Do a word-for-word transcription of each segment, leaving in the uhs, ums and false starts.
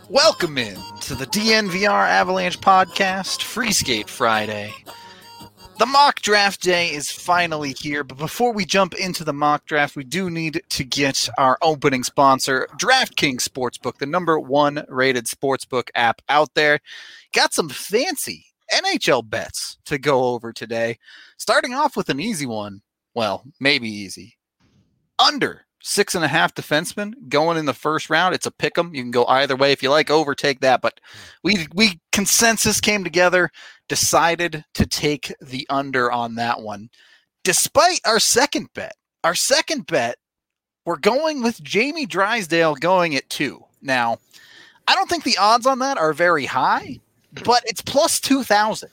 Welcome in to the D N V R Avalanche podcast, Free Skate Friday. The mock draft day is finally here, but before we jump into the mock draft, we do need to get our opening sponsor, DraftKings Sportsbook, the number one rated sportsbook app out there. Got some fancy N H L bets to go over today. Starting off with an easy one. Well, maybe easy. Under six and a half defensemen going in the first round. It's a pick 'em. You can go either way. If you like over, take that. But we we consensus came together, decided to take the under on that one. Despite our second bet, our second bet, we're going with Jamie Drysdale going at two. Now, I don't think the odds on that are very high, but it's plus two thousand.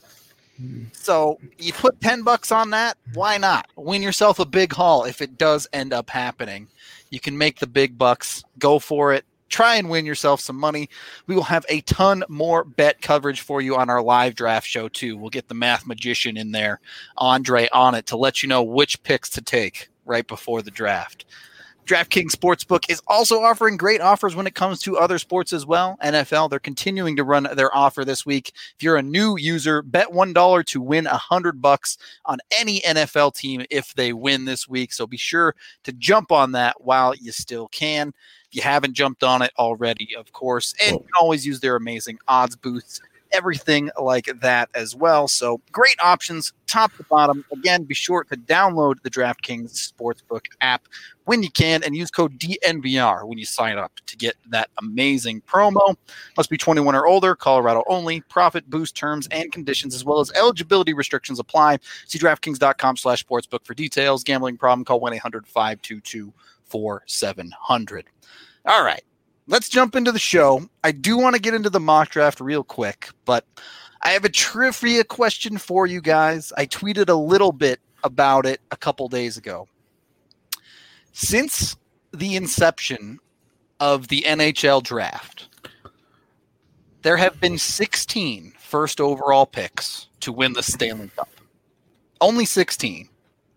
So you put ten bucks on that. Why not? Win yourself a big haul if it does end up happening. You can make the big bucks. Go for it. Try and win yourself some money. We will have a ton more bet coverage for you on our live draft show, too. We'll get the math magician in there, Andre, on it to let you know which picks to take right before the draft. DraftKings Sportsbook is also offering great offers when it comes to other sports as well. N F L, they're continuing to run their offer this week. If you're a new user, bet one dollar to win one hundred bucks on any N F L team if they win this week. So be sure to jump on that while you still can. If you haven't jumped on it already, of course, and you can always use their amazing odds boosts, everything like that as well. So great options, top to bottom. Again, be sure to download the DraftKings Sportsbook app when you can and use code D N V R when you sign up to get that amazing promo. Must be twenty-one or older, Colorado only. Profit boost terms and conditions as well as eligibility restrictions apply. See DraftKings.com slash sportsbook for details. Gambling problem, call one eight hundred five two two four seven zero zero. All right. Let's jump into the show. I do want to get into the mock draft real quick, but I have a trivia question for you guys. I tweeted a little bit about it a couple days ago. Since the inception of the N H L draft, there have been sixteen first overall picks to win the Stanley Cup. Only sixteen.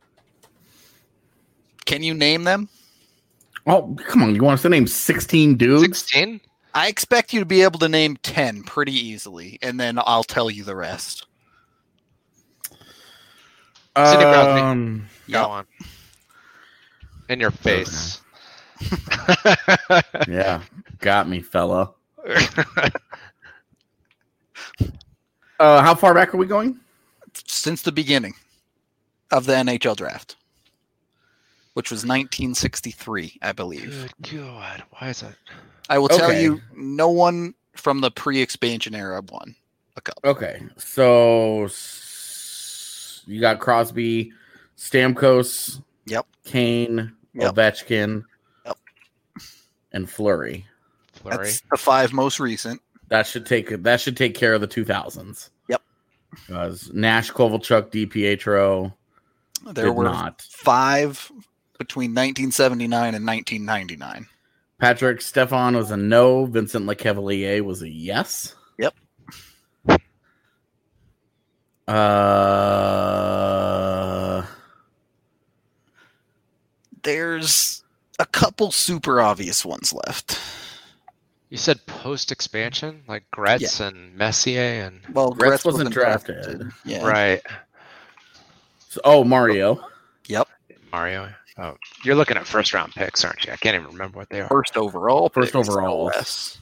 Can you name them? Oh, come on. You want us to name sixteen dudes? sixteen? I expect you to be able to name ten pretty easily, and then I'll tell you the rest. Sidney Crosby. Um, Go Yep. on. In your face. yeah, got me, fella. Uh, how far back are we going? Since the beginning of the N H L draft, which was nineteen sixty-three, I believe. Good God. Why is that? I will tell Okay. you, no one from the pre-expansion era won a cup. Okay, so s- you got Crosby, Stamkos, Yep. Kane, Yep. Ovechkin, Yep. and Fleury. Flurry. That's the five most recent. That should take that should take care of the two thousands. Yep. Because Nash, Kovalchuk, DiPietro There did were not. five between nineteen seventy-nine and nineteen ninety-nine. Patrick Stefan was a no. Vincent Lecavalier was a yes. Yep. Uh, There's a couple super obvious ones left. You said post-expansion? Like Gretz and Messier and... Well, Gretz Gretz wasn't drafted. Yeah. Right. so, oh, Mario. Yep. Mario. Oh, you're looking at first-round picks, aren't you? I can't even remember what they are. First overall. First picks, overall. no less.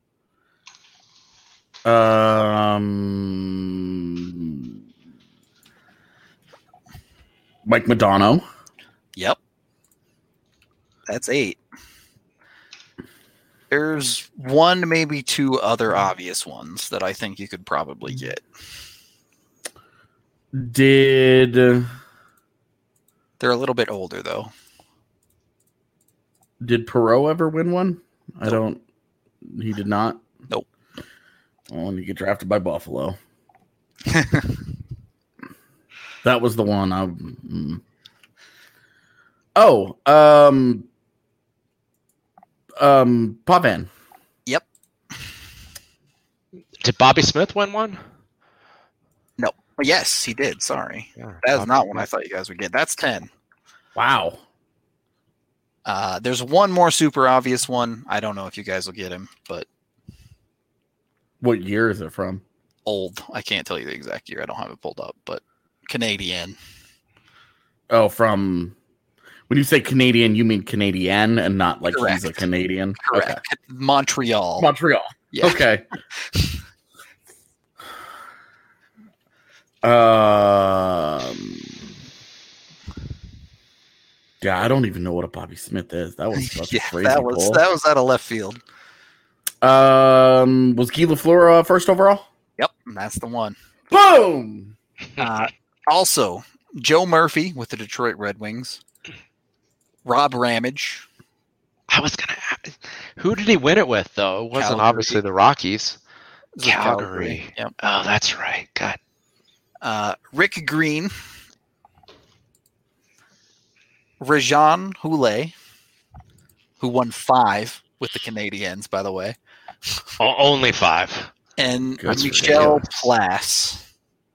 Um, Mike Madonna. Yep. That's eight. There's one, maybe two other obvious ones that I think you could probably get. Did They're a little bit older, though. did Perot ever win one? I don't. He did not. Nope. Well, and you get drafted by Buffalo. That was the one. I. Mm. Oh, um, um, Pavan. Yep. Did Bobby Smith win one? No. Yes, he did. Sorry. Yeah, That is Bobby not one I Smith. thought you guys would get. That's ten. Wow. Uh, there's one more super obvious one. I don't know if you guys will get him, but What year is it from? Old. I can't tell you the exact year. I don't have it pulled up, but Canadian. Oh, from when you say Canadian, you mean Canadian and not like Correct. he's a Canadian? Correct. Okay. Montreal. Montreal. Yeah. Okay. um. Yeah, I don't even know what a Bobby Smith is. That was such Yeah, a crazy that was pull. that was out of left field. Um, was Guy Lafleur uh, first overall? Yep, that's the one. Boom. Uh, also, Joe Murphy with the Detroit Red Wings. Rob Ramage. I was gonna. Who did he win it with though? It wasn't Calgary. obviously the Rockies. It was with Calgary. Yep. Oh, that's right. God. Uh, Rick Green. Rajan Houlet, who won five with the Canadiens, by the way. O- only five. And That's Michel ridiculous. Plass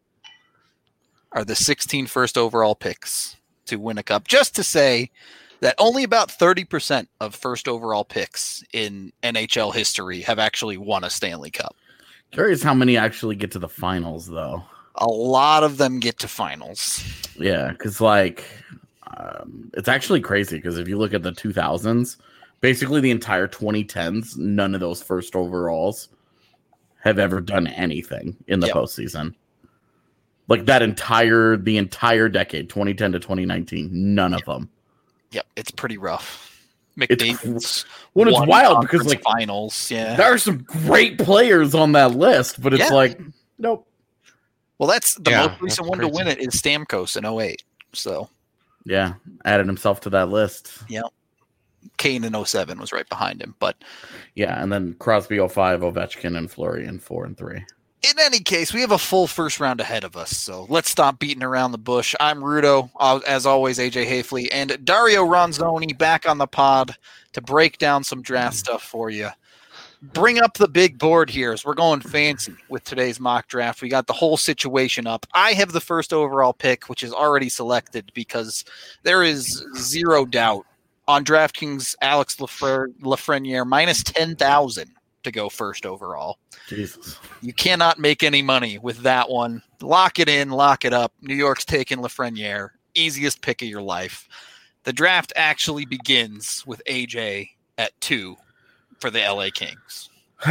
are the sixteen first overall picks to win a cup. Just to say that only about thirty percent of first overall picks in N H L history have actually won a Stanley Cup. Curious how many actually get to the finals, though. A lot of them get to finals. Yeah, because like um, it's actually crazy because if you look at the two thousands, basically the entire twenty tens, none of those first overalls have ever done anything in the Yep. postseason. Like that entire the entire decade, twenty ten to twenty nineteen, none of them. Yep, it's pretty rough. It's McDavid's Well, it's won wild because conference like finals, yeah. there are some great players on that list, but it's Yeah. like nope. Well, that's the Yeah, most recent that's one to win crazy. it is Stamkos in oh eight. So Yeah, added himself to that list. Kane in oh seven was right behind him. But Yeah, and then Crosby oh five, Ovechkin, and Fleury in four and three. in any case, we have a full first round ahead of us. So let's stop beating around the bush. I'm Rudo, uh, as always, A J Hafley, and Dario Ronzoni back on the pod to break down some draft stuff for you. Bring up the big board here as we're going fancy with today's mock draft. We got the whole situation up. I have the first overall pick, which is already selected because there is zero doubt on DraftKings Alex Lafre- Lafreniere minus ten thousand to go first overall. Jesus. You cannot make any money with that one. Lock it in, lock it up. New York's taking Lafreniere. Easiest pick of your life. The draft actually begins with A J at two for the L A Kings.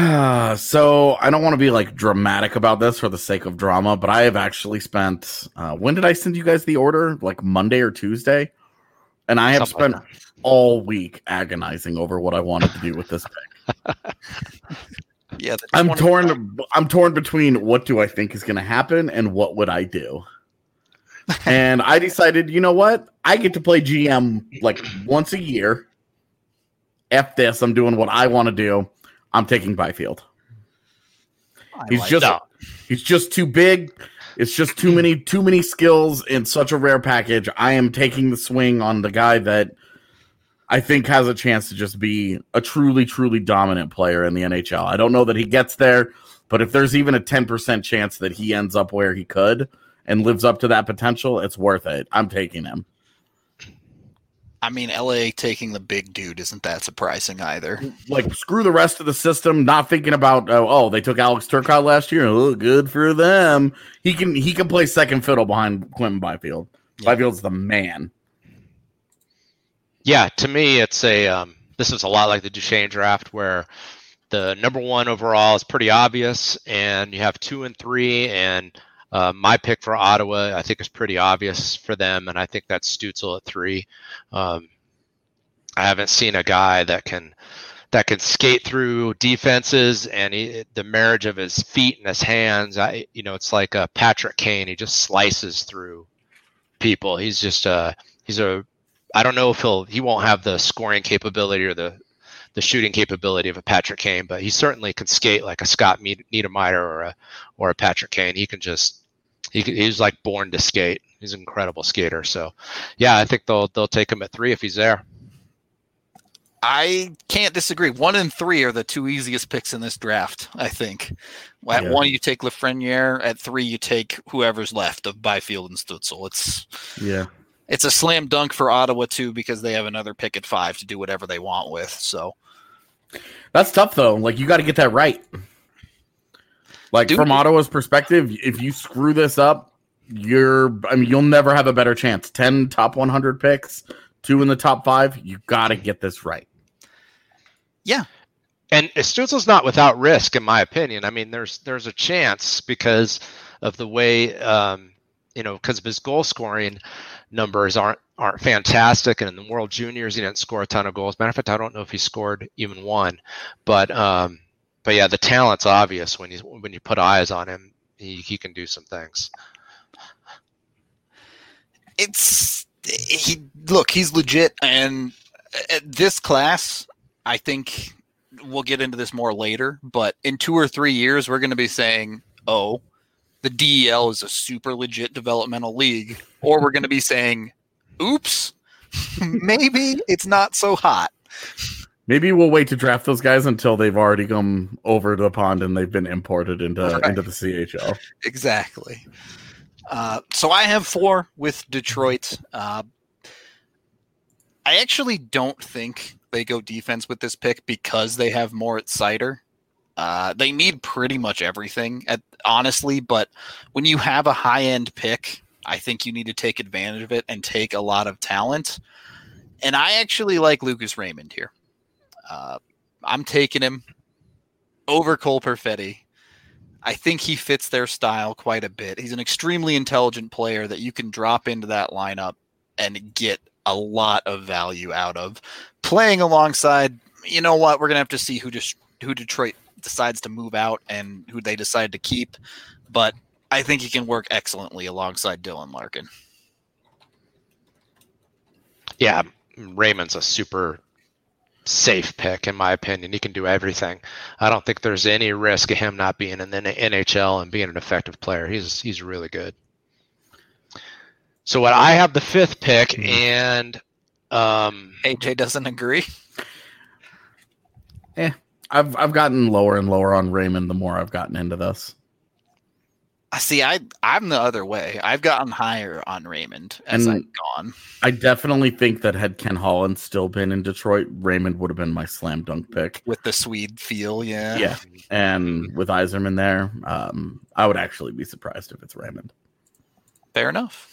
So I don't want to be like dramatic about this for the sake of drama, but I have actually spent. Uh, when did I send you guys the order? Like Monday or Tuesday, and I have Something spent like all week agonizing over what I wanted to do with this pick. Yeah, the I'm twenty- torn. I'm torn between what do I think is going to happen and what would I do. And I decided, you know what? I get to play G M like once a year. F this. I'm doing what I want to do. I'm taking Byfield. I He's like just that. he's just too big. It's just too many too many skills in such a rare package. I am taking the swing on the guy that I think has a chance to just be a truly, truly dominant player in the N H L. I don't know that he gets there, but if there's even a ten percent chance that he ends up where he could and lives up to that potential, it's worth it. I'm taking him. I mean, L A taking the big dude isn't that surprising either. Like, screw the rest of the system, not thinking about, oh, oh they took Alex Turcotte last year. Oh, good for them. He can he can play second fiddle behind Quentin Byfield. Yeah. Byfield's the man. Yeah, to me, it's a. Um, this is a lot like the Duchesne draft, where the number one overall is pretty obvious, and you have two and three. And uh, my pick for Ottawa, I think, is pretty obvious for them, and I think that's Stützle at three. Um, I haven't seen a guy that can that can skate through defenses, and he, the marriage of his feet and his hands. I, you know, it's like a Patrick Kane. He just slices through people. He's just a. He's a I don't know if he'll he won't have the scoring capability or the the shooting capability of a Patrick Kane, but he certainly can skate like a Scott Niedermayer or a or a Patrick Kane. He can just he he's like born to skate. He's an incredible skater. So, yeah, I think they'll they'll take him at three if he's there. I can't disagree. One and three are the two easiest picks in this draft, I think. At Yeah. one, you take Lafreniere. At three, you take whoever's left of Byfield and Stützle. It's Yeah. it's a slam dunk for Ottawa, too, because they have another pick at five to do whatever they want with. So That's tough, though. Like, you got to get that right. Like Dude. from Ottawa's perspective, if you screw this up, you're I mean you'll never have a better chance. ten top one hundred picks, two in the top five. You got to get this right. Yeah. And Stützle's not without risk, in my opinion. I mean, there's there's a chance because of the way, um, you know, because of his goal scoring numbers aren't aren't fantastic. And in the World Juniors, he didn't score a ton of goals. Matter of fact, I don't know if he scored even one. But um, but yeah, the talent's obvious when you when you put eyes on him. He he can do some things. It's he look, he's legit, and at this class, I think we'll get into this more later, but in two or three years, we're going to be saying, oh, the D E L is a super legit developmental league, or we're going to be saying, oops, maybe it's not so hot. Maybe we'll wait to draft those guys until they've already come over the pond and they've been imported into Right. into the C H L. Exactly. Uh, so I have four with Detroit. Uh, I actually don't think they go defense with this pick because they have Moritz Seider. Uh, they need pretty much everything, at, honestly, but when you have a high-end pick, I think you need to take advantage of it and take a lot of talent. And I actually like Lucas Raymond here. Uh, I'm taking him over Cole Perfetti. I think he fits their style quite a bit. He's an extremely intelligent player that you can drop into that lineup and get a lot of value out of. Playing alongside, you know what, we're going to have to see who just who Detroit decides to move out and who they decide to keep. But I think he can work excellently alongside Dylan Larkin. Yeah, Raymond's a super safe pick, in my opinion. He can do everything. I don't think there's any risk of him not being in the N H L and being an effective player. He's he's really good. So what I have the fifth pick, and um, A J doesn't agree. Eh, I've I've gotten lower and lower on Raymond the more I've gotten into this. I see. I I'm the other way. I've gotten higher on Raymond as And- I've gone. I definitely think that had Ken Holland still been in Detroit, Raymond would have been my slam dunk pick. With the Swede feel, yeah. Yeah, and with Yzerman there, um, I would actually be surprised if it's Raymond. Fair enough.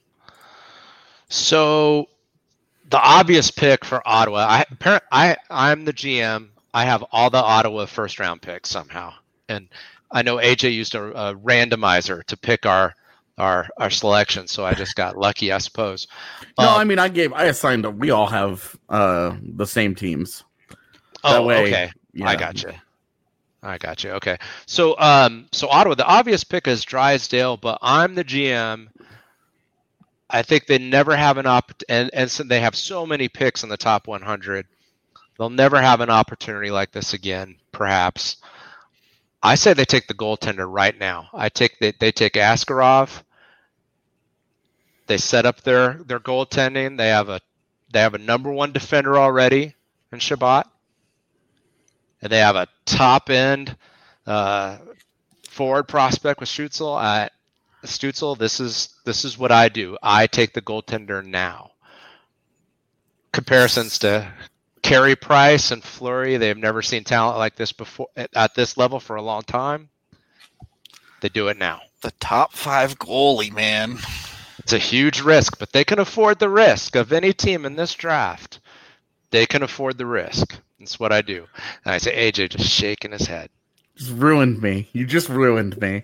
So the obvious pick for Ottawa, I, apparent- I I'm the G M. I have all the Ottawa first round picks somehow, and I know A J used a, a randomizer to pick our our our selection, so I just got lucky, I suppose. No, Um, I mean I gave I assigned. We all have uh, the same teams. oh, way, okay, Yeah. I got you. I got you. Okay, so um, so Ottawa, the obvious pick is Drysdale, but I'm the G M. I think they never have an op, and and so they have so many picks in the top one hundred. They'll never have an opportunity like this again, perhaps. I say they take the goaltender right now. I take they, they take Askarov. They set up their their goaltending. They have a they have a number one defender already in Shabbat, and they have a top end uh, forward prospect with Stützle. Uh, Stützle, this is this is what I do. I take the goaltender now. Comparisons to Carey Price and Fleury, they've never seen talent like this before at, at this level for a long time. They do it now. The top five goalie, man. It's a huge risk, but they can afford the risk of any team in this draft. They can afford the risk. That's what I do. And I say, A J just shaking his head. Just ruined me. You just ruined me.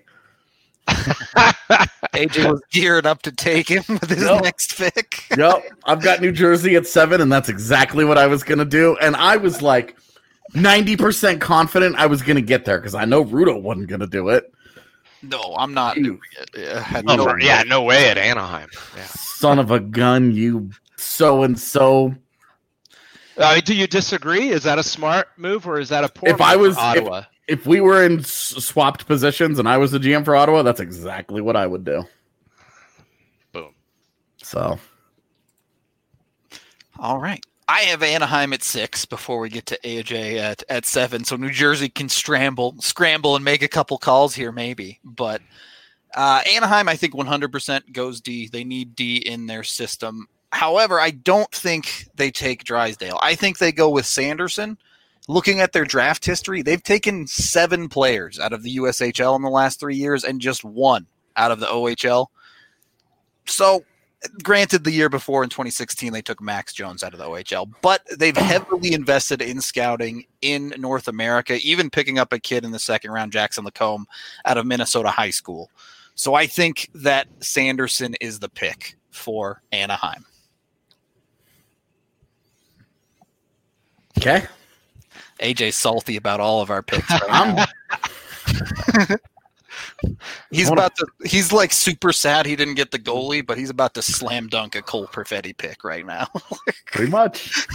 A J was gearing up to take him with his Yep. next pick. Yep, I've got New Jersey at seven, and that's exactly what I was gonna do. And I was like ninety percent confident I was gonna get there because I know Rudo wasn't gonna do it. No, I'm not doing it. I had Oh, no- for- yeah, no way at Anaheim. Yeah. Son of a gun, you so and so. Uh, do you disagree? Is that a smart move or is that a poor If move I was- for Ottawa? If we were in s- swapped positions and I was the G M for Ottawa, that's exactly what I would do. Boom. So All right. I have Anaheim at six before we get to A J at, at seven. So New Jersey can scramble, scramble and make a couple calls here, maybe. But uh, Anaheim, I think one hundred percent goes D. They need D in their system. However, I don't think they take Drysdale. I think they go with Sanderson. looking at their draft history, they've taken seven players out of the U S H L in the last three years and just one out of the O H L. So, granted, the year before in twenty sixteen, they took Max Jones out of the O H L, but they've heavily invested in scouting in North America, even picking up a kid in the second round, Jackson Lacombe, out of Minnesota High School. So I think that Sanderson is the pick for Anaheim. Okay. A J's salty about all of our picks right now. He's about to. He's like super sad he didn't get the goalie, but he's about to slam dunk a Cole Perfetti pick right now. Pretty much.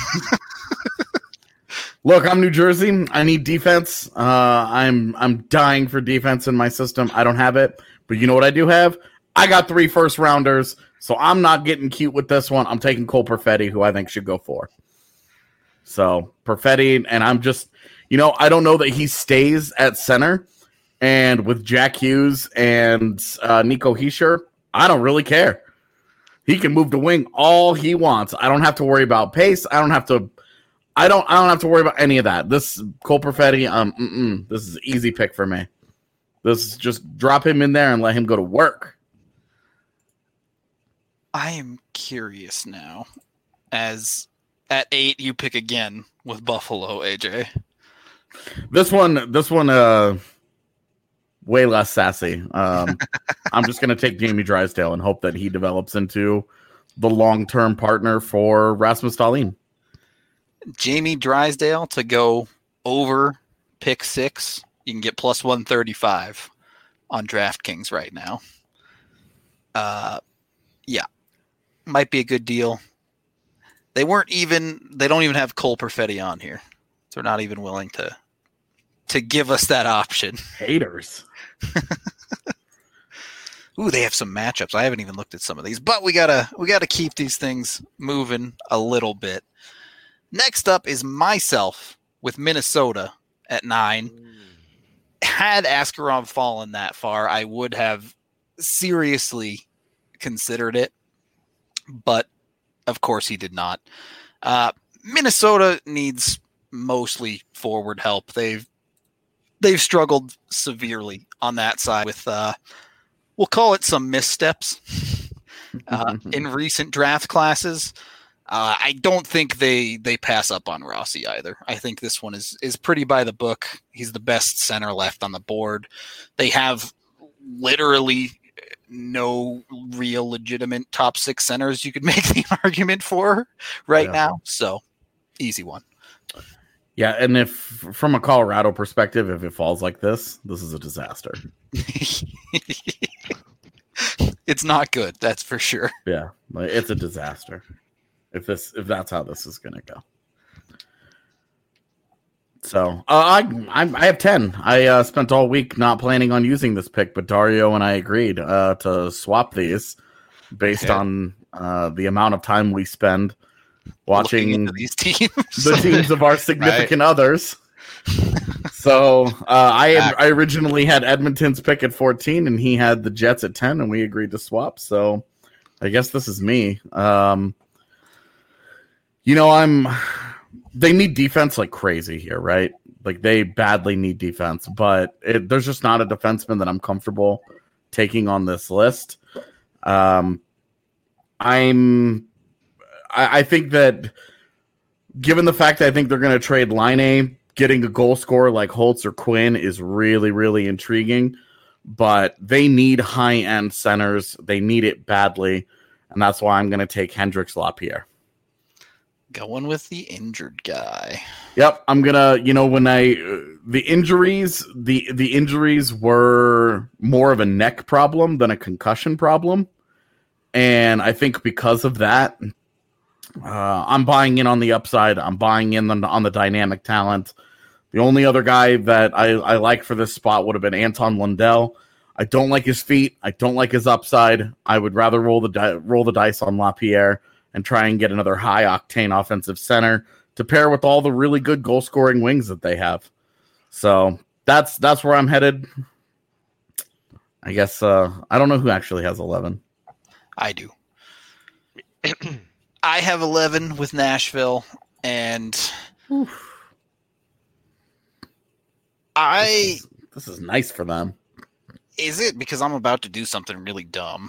Look, I'm New Jersey. I need defense. Uh, I'm I'm dying for defense in my system. I don't have it, but you know what I do have? I got three first rounders, so I'm not getting cute with this one. I'm taking Cole Perfetti, who I think should go for. So Perfetti, and I'm just, you know, I don't know that he stays at center. And with Jack Hughes and uh, Nico Hischier, I don't really care. He can move the wing all he wants. I don't have to worry about pace. I don't have to. I don't. I don't have to worry about any of that. This Cole Perfetti, um, mm-mm, this is an easy pick for me. This is just drop him in there and let him go to work. I am curious now, as at eight you pick again with Buffalo, A J. This one. This one. Uh. Way less sassy. Um, I'm just going to take Jamie Drysdale and hope that he develops into the long-term partner for Rasmus Dahlin. Jamie Drysdale to go over pick six. You can get plus one thirty-five on DraftKings right now. Uh, yeah, might be a good deal. They weren't even. They don't even have Cole Perfetti on here. So they're not even willing to to give us that option. Haters. Ooh, they have some matchups. I haven't even looked at some of these, but we gotta we gotta keep these things moving a little bit. Next up is myself with Minnesota at nine. Had Askarov fallen that far, I would have seriously considered it, but of course he did not. Uh, Minnesota needs mostly forward help. They've they've struggled severely on that side with, uh, we'll call it some missteps uh, in recent draft classes. Uh, I don't think they they pass up on Rossi either. I think this one is is pretty by the book. He's the best center left on the board. They have literally no real legitimate top six centers you could make the argument for right yeah. now. So easy one. Yeah, and if from a Colorado perspective, if it falls like this, this is a disaster. It's not good, that's for sure. Yeah, it's a disaster. If this, if that's how this is going to go. So uh, I, I, I have ten. I uh, spent all week not planning on using this pick, but Dario and I agreed uh, to swap these based okay. on uh, the amount of time we spend watching these teams, the teams of our significant right. others. So uh, I had, I originally had Edmonton's pick at fourteen, and he had the Jets at ten, and we agreed to swap. So I guess this is me. Um, you know, I'm. They need defense like crazy here, right? Like they badly need defense, but it, there's just not a defenseman that I'm comfortable taking on this list. Um, I'm. I, I think that given the fact that I think they're going to trade Laine, getting a goal scorer like Holtz or Quinn is really, really intriguing. But they need high-end centers. They need it badly, and that's why I'm going to take Hendrix Lapierre. Going with the injured guy. Yep, I'm gonna. You know, when I uh, the injuries, the the injuries were more of a neck problem than a concussion problem, and I think because of that, uh, I'm buying in on the upside. I'm buying in on the, on the dynamic talent. The only other guy that I, I like for this spot would have been Anton Lundell. I don't like his feet. I don't like his upside. I would rather roll the di- roll the dice on Lapierre and try and get another high-octane offensive center to pair with all the really good goal-scoring wings that they have. So that's that's where I'm headed. I guess uh, I don't know who actually has eleven. I do. I have eleven with Nashville, and Oof. I this is, this is nice for them. Is it because I'm about to do something really dumb?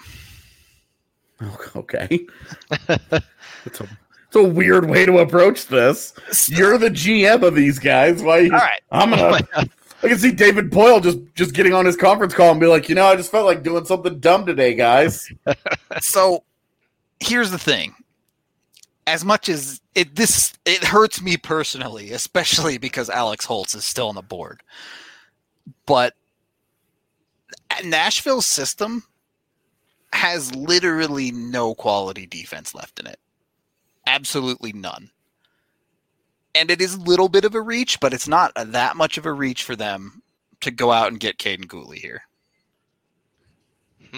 Okay. It's a, it's a weird way to approach this. You're the G M of these guys. Why? All right. I'm gonna. I can see David Boyle just, just getting on his conference call and be like, you know, I just felt like doing something dumb today, guys. So here's the thing. As much as it this it hurts me personally, especially because Alex Holtz is still on the board. But Nashville's system has literally no quality defense left in it. Absolutely none. And it is a little bit of a reach, but it's not that much of a reach for them to go out and get Caden Gooley here. Hmm.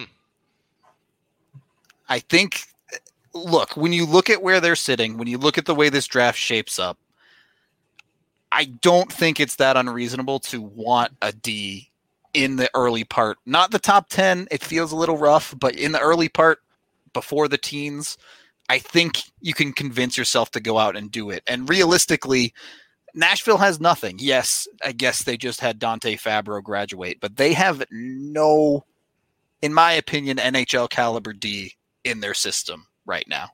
I think, look, when you look at where they're sitting, when you look at the way this draft shapes up, I don't think it's that unreasonable to want a D in the early part. Not the top ten. It feels a little rough, but in the early part, before the teens, I think you can convince yourself to go out and do it. And realistically, Nashville has nothing. Yes, I guess they just had Dante Fabro graduate, but they have no, in my opinion, N H L caliber D in their system right now.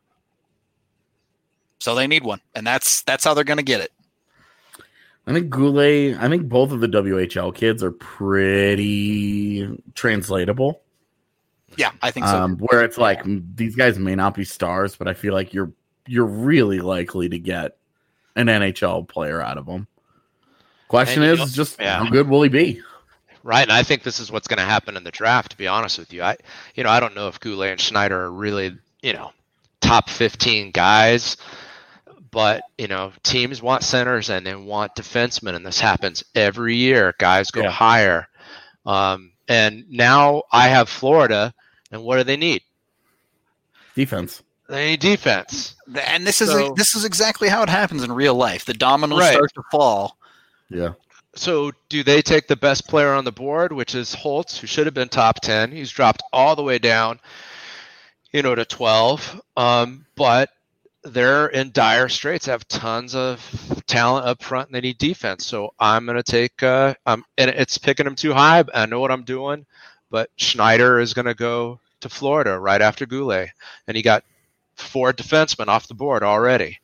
So they need one, and that's that's how they're going to get it. I think Goulet, I think both of the W H L kids are pretty translatable. Yeah, I think so. Um, where it's like these guys may not be stars, but I feel like you're you're really likely to get an N H L player out of them. Question And, is know, just yeah. how good will he be? Right, and I think this is what's going to happen in the draft. To be honest with you, I, you know, I don't know if Goulet and Schneider are really, you know, top fifteen guys, but you know, teams want centers and they want defensemen, and this happens every year. Guys go Yeah. higher, um, and now I have Florida, and what do they need? Defense. They need defense. And this is So- this is exactly how it happens in real life. The dominoes Right. start to fall. Yeah. So do they take the best player on the board, which is Holtz, who should have been top ten? He's dropped all the way down, you know, to twelve. Um, but they're in dire straits. They have tons of talent up front, and they need defense. So I'm going to take uh, – um, and it's picking them too high. I know what I'm doing. But Schneider is going to go to Florida right after Goulet. And he got four defensemen off the board already.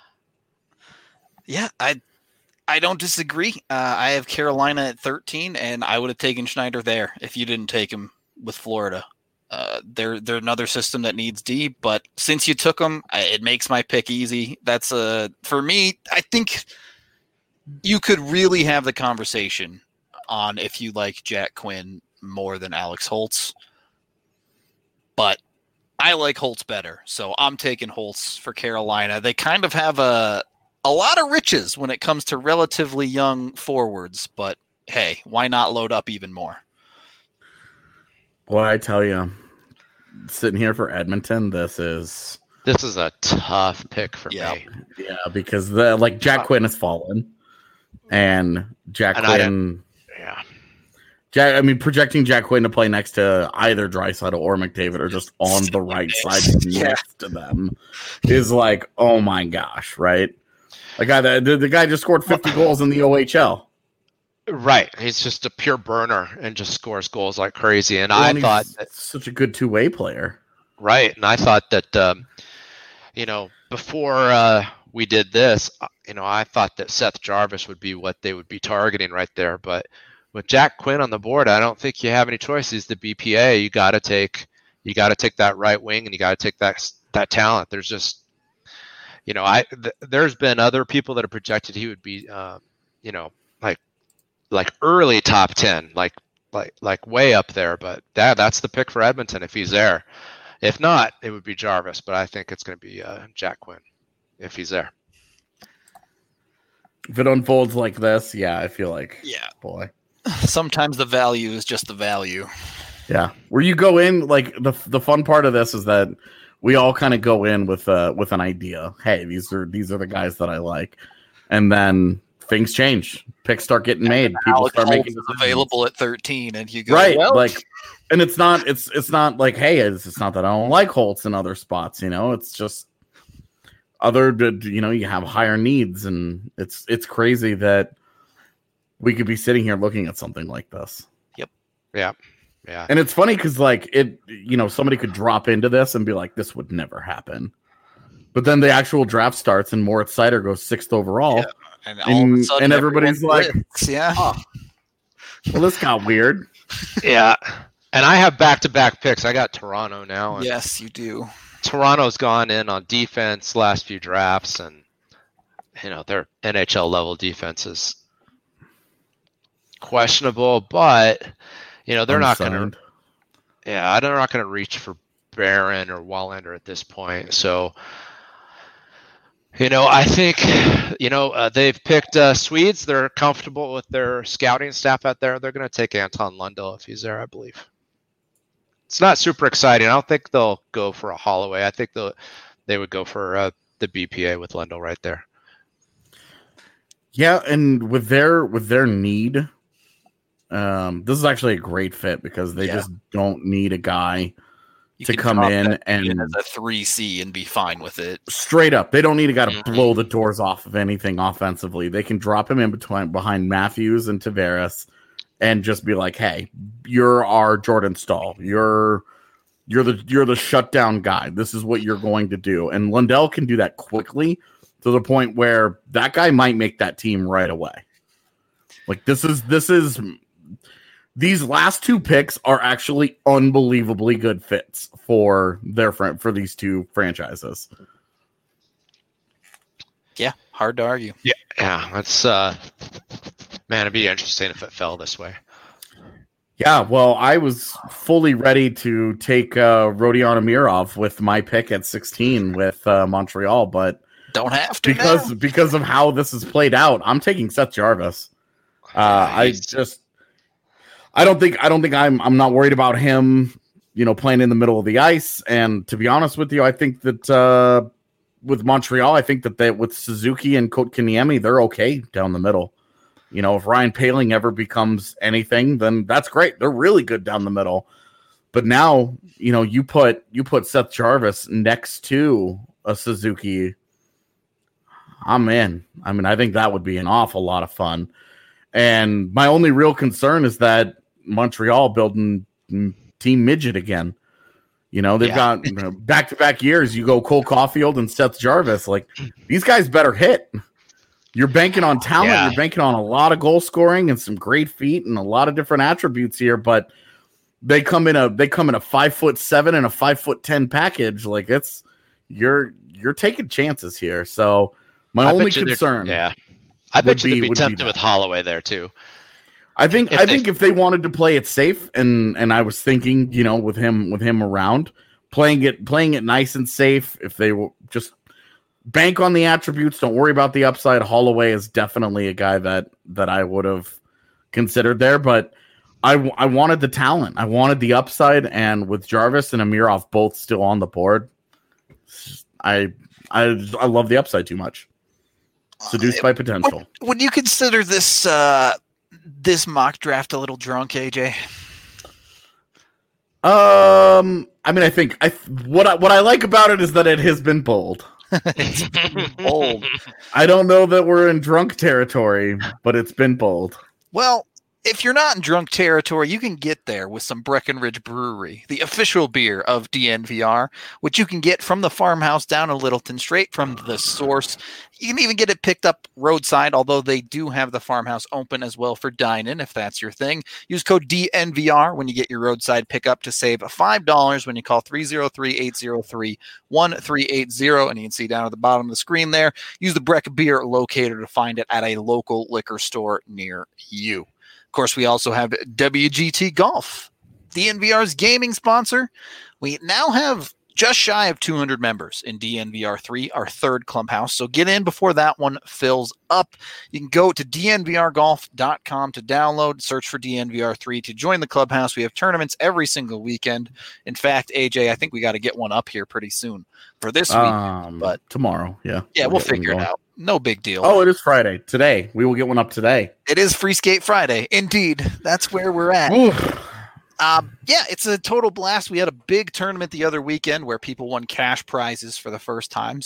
Yeah, I I don't disagree. Uh, I have Carolina at thirteen, and I would have taken Schneider there if you didn't take him with Florida. Uh, they're they're another system that needs D, but since you took them, I, it makes my pick easy. That's a for me. I think you could really have the conversation on if you like Jack Quinn more than Alex Holtz, but I like Holtz better, so I'm taking Holtz for Carolina. They kind of have a a lot of riches when it comes to relatively young forwards, but hey, why not load up even more? Boy, I tell you, sitting here for Edmonton, this is This is a tough pick for Yeah. me. yeah because the like Jack Quinn has fallen, and Jack And I Quinn. Yeah. Jack, I mean, projecting Jack Quinn to play next to either Draisaitl or McDavid or just on the right side Yeah. next to them is like, oh my gosh, right? The guy that the, the guy just scored fifty goals in the O H L. Right. He's just a pure burner and just scores goals like crazy. And Well, I and he's thought that, such a good two way player. right. And I thought that, um, you know, before uh, we did this, uh, you know, I thought that Seth Jarvis would be what they would be targeting right there. But with Jack Quinn on the board, I don't think you have any choices. The B P A, you got to take, you got to take that right wing, and you got to take that that talent. There's just, you know, I th- there's been other people that have projected he would be, uh, you know, like like early top ten, like like like way up there. But that that's the pick for Edmonton if he's there. If not, it would be Jarvis. But I think it's going to be uh, Jack Quinn if he's there. If it unfolds like this, yeah, I feel like, Yeah. boy. Sometimes the value is just the value. Yeah, where you go in, like the the fun part of this is that we all kind of go in with uh with an idea. Hey, these are these are the guys that I like, and then things change. Picks start getting made. People Alex start Holtz making is decisions. available at thirteen, and you go right, well, like, and it's not it's it's not like hey, it's, it's not that I don't like Holtz in other spots. You know, it's just other you know you have higher needs, and it's it's crazy that we could be sitting here looking at something like this. Yep. Yeah. Yeah. And it's funny because, like, it, you know, somebody could drop into this and be like, this would never happen. But then the actual draft starts and Moritz Seider goes sixth overall. Yeah. And, all and, of a sudden and everybody's like, blitz. yeah. Oh, well, this got weird. Yeah. And I have back-to-back picks. I got Toronto now. And yes, you do. Toronto's gone in on defense last few drafts, and, you know, their N H L level defense is questionable, but, you know, they're Unsigned. not going to, yeah, they're not going to reach for Barron or Wallander at this point. So, you know, I think, you know, uh, they've picked uh, Swedes. They're comfortable with their scouting staff out there. They're going to take Anton Lundell if he's there, I believe. It's not super exciting. I don't think they'll go for a Holloway. I think they'll, they would go for uh, the B P A with Lundell right there. Yeah, and with their with their need, um, this is actually a great fit because they yeah. just don't need a guy You to come in and as a three C and be fine with it. Straight up, they don't need a guy to Mm-hmm. blow the doors off of anything offensively. They can drop him in between behind Matthews and Tavares, and just be like, "Hey, you're our Jordan Staal. You're you're the you're the shutdown guy. This is what you're going to do." And Lundell can do that quickly to the point where that guy might make that team right away. Like this is this is. These last two picks are actually unbelievably good fits for their fr- for these two franchises. Yeah, hard to argue. Yeah, yeah, that's uh, man, it'd be interesting if it fell this way. Yeah, well, I was fully ready to take uh, Rodion Amirov with my pick at sixteen with uh, Montreal, but don't have to because now. because of how this has played out. I'm taking Seth Jarvis. Uh, Yeah, I he's- just. I don't think I don't think I'm I'm not worried about him, you know, playing in the middle of the ice. And to be honest with you, I think that uh, with Montreal, I think that they with Suzuki and Kotkaniemi, they're okay down the middle. You know, if Ryan Poehling ever becomes anything, then that's great. They're really good down the middle. But now, you know, you put you put Seth Jarvis next to a Suzuki. I'm in. I mean, I think that would be an awful lot of fun. And my only real concern is that Montreal building team midget again. You know, they've Yeah. got you know, back-to-back years. You go Cole Caulfield and Seth Jarvis. Like, these guys better hit. You're banking on talent. Yeah. You're banking on a lot of goal scoring and some great feet and a lot of different attributes here. But they come in a they come in a five foot seven and a five foot ten package. Like it's you're you're taking chances here. So my I only bet you they're- concern, Yeah. I bet you be- they'd be would be tempted that. with Holloway there too. I think If I they- think if they wanted to play it safe, and and I was thinking, you know, with him with him around, playing it playing it nice and safe. If they will just bank on the attributes, don't worry about the upside. Holloway is definitely a guy that that I would have considered there, but I I wanted the talent, I wanted the upside, and with Jarvis and Amirov both still on the board, I I I love the upside too much. Seduced by potential. Would, would you consider this uh, this mock draft a little drunk, A J? Um, I mean, I think I what I, what I like about it is that it has been bold. Bold. I don't know that we're in drunk territory, but it's been bold. Well, if you're not in drunk territory, you can get there with some Breckenridge Brewery, the official beer of D N V R, which you can get from the farmhouse down in Littleton, straight from the source. You can even get it picked up roadside, although they do have the farmhouse open as well for dine-in, if that's your thing. Use code D N V R when you get your roadside pickup to save five dollars when you call three oh three, eight oh three, one three eight zero, and you can see down at the bottom of the screen there. Use the Breck Beer locator to find it at a local liquor store near you. Of course, we also have W G T Golf, D N V R's gaming sponsor. We now have just shy of two hundred members in D N V R three, our third clubhouse. So get in before that one fills up. You can go to D N V R golf dot com to download, search for D N V R three to join the clubhouse. We have tournaments every single weekend. In fact, A J, I think we got to get one up here pretty soon for this week. Um, but tomorrow, yeah, yeah, we'll get one figure it going. out. No big deal. Oh, it is Friday today. We will get one up today. It is Free Skate Friday. Indeed. That's where we're at. Oof. Um, yeah, it's a total blast. We had a big tournament the other weekend where people won cash prizes for the first time. So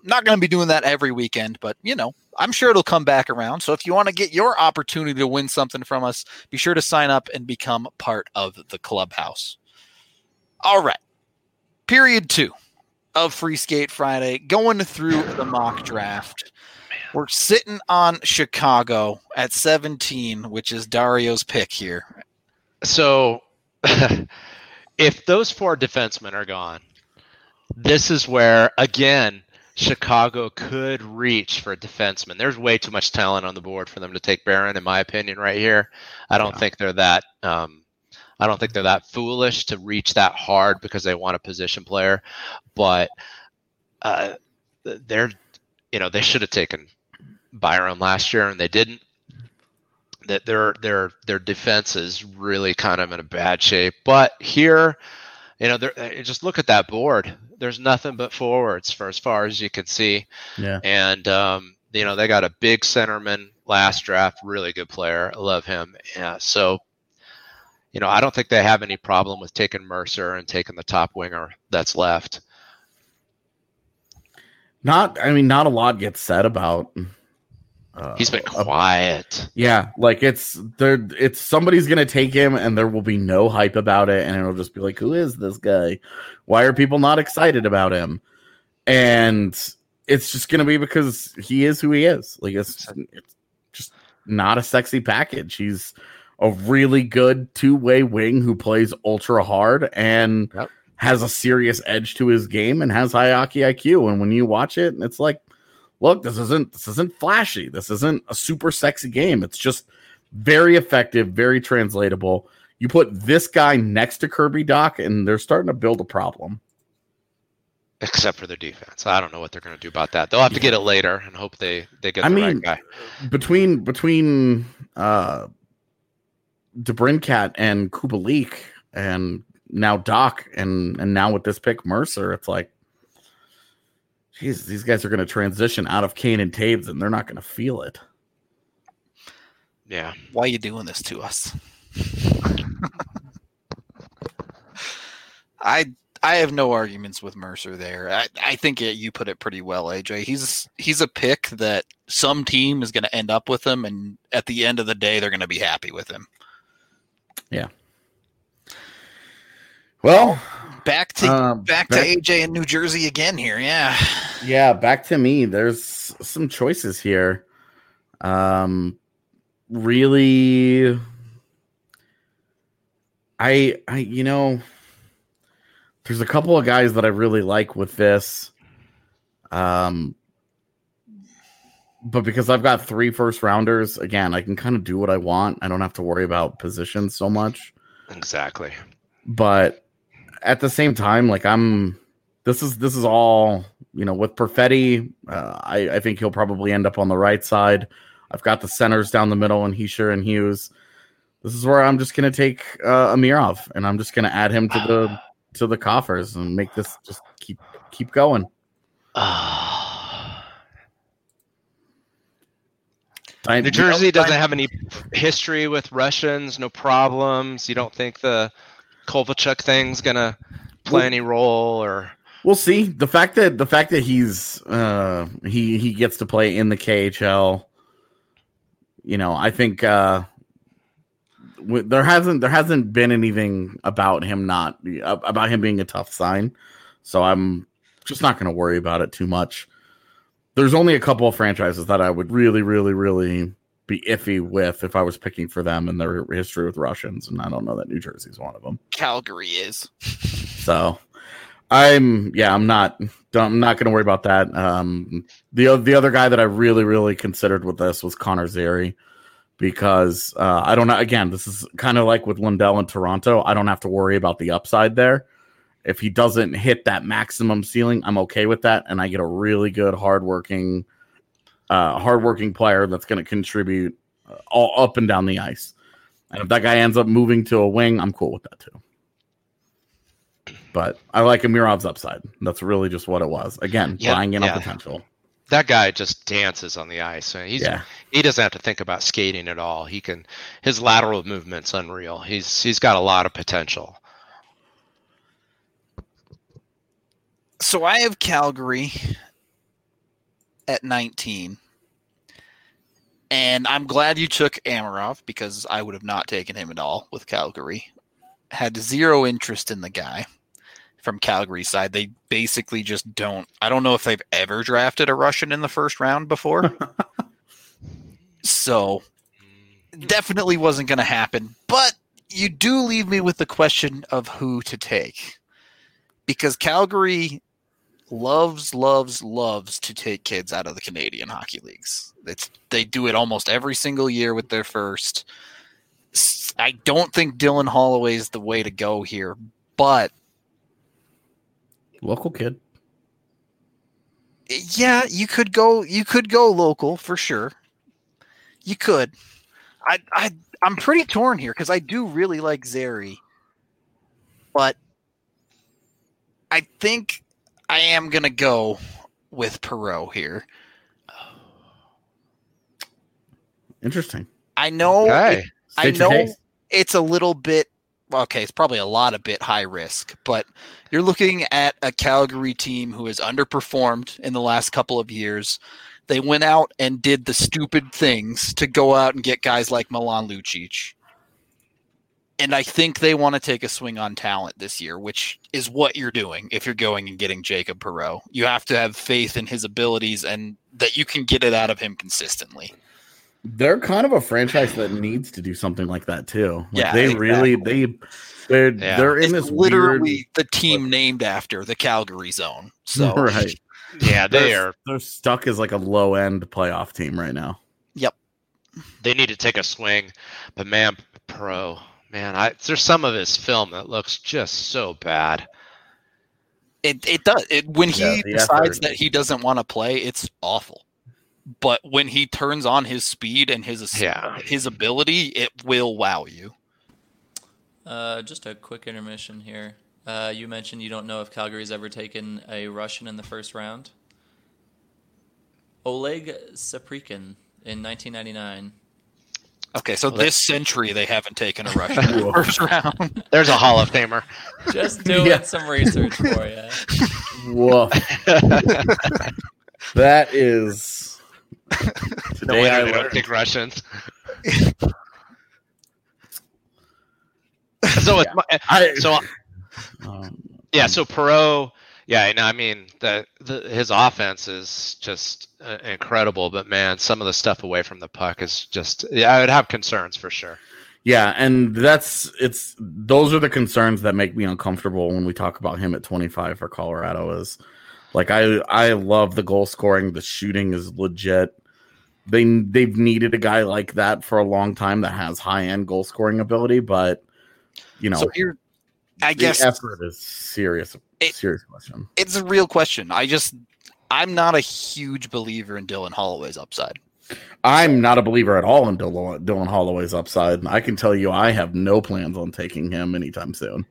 not going to be doing that every weekend, but, you know, I'm sure it'll come back around. So if you want to get your opportunity to win something from us, be sure to sign up and become part of the clubhouse. All right. Period two of Free Skate Friday, going through the mock draft. We're sitting on Chicago at seventeen, which is Dario's pick here. So if those four defensemen are gone, this is where, again, Chicago could reach for a defenseman. There's way too much talent on the board for them to take Barron, in my opinion, right here. I don't yeah. think they're that um, I don't think they're that foolish to reach that hard because they want a position player. But uh, they're, you know, they should have taken Byron last year, and they didn't. That their their their defense is really kind of in a bad shape. But here, you know, just look at that board. There's nothing but forwards for as far as you can see. Yeah. And, um, you know, they got a big centerman last draft, really good player. I love him. Yeah. So, you know, I don't think they have any problem with taking Mercer and taking the top winger that's left. Not, I mean, not a lot gets said about. Uh, He's been quiet. Uh, yeah, like it's there. It's somebody's gonna take him, and there will be no hype about it, and it'll just be like, "Who is this guy? Why are people not excited about him?" And it's just gonna be because he is who he is. Like it's, it's just not a sexy package. He's a really good two-way wing who plays ultra hard and yep. has a serious edge to his game and has high hockey I Q. And when you watch it, it's like, look, this isn't this isn't flashy. This isn't a super sexy game. It's just very effective, very translatable. You put this guy next to Kirby Dach, and they're starting to build a problem. Except for their defense. I don't know what they're going to do about that. They'll have to get it later and hope they, they get I the mean, right guy. Between between uh, DeBrincat and Kubalik, and now Dach, and and now with this pick Mercer, it's like, jeez, these guys are going to transition out of Kane and Taves, and they're not going to feel it. Yeah. Why are you doing this to us? I I have no arguments with Mercer there. I, I think it, you put it pretty well, A J. He's he's a pick that some team is going to end up with him, and at the end of the day, they're going to be happy with him. Yeah. Well, back to uh, back, back to A J in New Jersey again here. Yeah. Yeah, back to me. There's some choices here. Um, really, I I you know. There's a couple of guys that I really like with this. Um, but because I've got three first rounders, again, I can kind of do what I want. I don't have to worry about positions so much. Exactly. But at the same time, like I'm, this is, this is all, you know, with Perfetti, uh, I, I think he'll probably end up on the right side. I've got the centers down the middle and Hischier and Hughes. This is where I'm just going to take uh, Amirov, and I'm just going to add him to the, to the coffers and make this just keep keep going. Uh, I, New Jersey you know, doesn't I, have any history with Russians, no problems. You don't think the Kovalchuk thing's gonna play well, any role, or we'll see. The fact that the fact that he's uh, he he gets to play in the K H L, you know, I think uh, there hasn't there hasn't been anything about him not about him being a tough sign, so I'm just not going to worry about it too much. There's only a couple of franchises that I would really, really, really be iffy with if I was picking for them and their history with Russians, and I don't know that New Jersey's one of them. Calgary is. So I'm yeah I'm not I'm not going to worry about that. Um, the the other guy that I really, really considered with this was Connor Zary. Because uh, I don't know. Again, this is kind of like with Lundell in Toronto. I don't have to worry about the upside there. If he doesn't hit that maximum ceiling, I'm okay with that, and I get a really good, hardworking, uh, hardworking player that's going to contribute all up and down the ice. And if that guy ends up moving to a wing, I'm cool with that too. But I like Amirov's upside. That's really just what it was. Again, yeah, buying in yeah. on potential. That guy just dances on the ice. He's yeah. he doesn't have to think about skating at all. He can his lateral movement's unreal. He's he's got a lot of potential. So I have Calgary. at nineteen. And I'm glad you took Amarov because I would have not taken him at all with Calgary. Had zero interest in the guy from Calgary's side. They basically just don't. I don't know if they've ever drafted a Russian in the first round before. So definitely wasn't going to happen. But you do leave me with the question of who to take. Because Calgary loves, loves, loves to take kids out of the Canadian hockey leagues. It's, they do it almost every single year with their first. I don't think Dylan Holloway is the way to go here, but local kid. Yeah, you could go. You could go local for sure. You could. I, I, I'm pretty torn here because I do really like Zary, but I think I am gonna go with Perreault here. Interesting. I know. Okay. It, I know it's a little bit. Okay, it's probably a lot of bit high risk, but you're looking at a Calgary team who has underperformed in the last couple of years. They went out and did the stupid things to go out and get guys like Milan Lucic. And I think they want to take a swing on talent this year, which is what you're doing if you're going and getting Jacob Perreault. You have to have faith in his abilities and that you can get it out of him consistently. They're kind of a franchise that needs to do something like that too. Like yeah, they exactly. really they they're yeah. they're in it's this literally weird, the team named after the Calgary zone. So right. Yeah, they they're, are. They're stuck as like a low end playoff team right now. Yep. They need to take a swing, but man, Pro, man, I there's some of his film that looks just so bad. It it does. It, when he Yeah, the decides effort. that he doesn't want to play, it's awful. But when he turns on his speed and his Yeah. his ability, it will wow you. Uh, just a quick intermission here. Uh, you mentioned you don't know if Calgary's ever taken a Russian in the first round. Oleg Saprikin in nineteen ninety-nine. Okay, so Well, this century they haven't taken a Russian in the first round. There's a Hall of Famer. Just doing Yeah. some research for you. Woof. That is The today winner I they don't learned. take Russians. so it's my, I, so um, yeah, so Perreault, yeah, and I mean the, the his offense is just uh, incredible, but man, some of the stuff away from the puck is just yeah, I would have concerns for sure. yeah, and that's it's those are the concerns that make me uncomfortable when we talk about him at twenty-five for Colorado. Is like I I love the goal scoring, the shooting is legit. They they've needed a guy like that for a long time that has high end goal scoring ability, but you know, So here, I the guess effort is serious. It- serious question. it's a real question. I just I'm not a huge believer in Dylan Holloway's upside. I'm not a believer at all in Dylan, Dylan Holloway's upside. I can tell you, I have no plans on taking him anytime soon.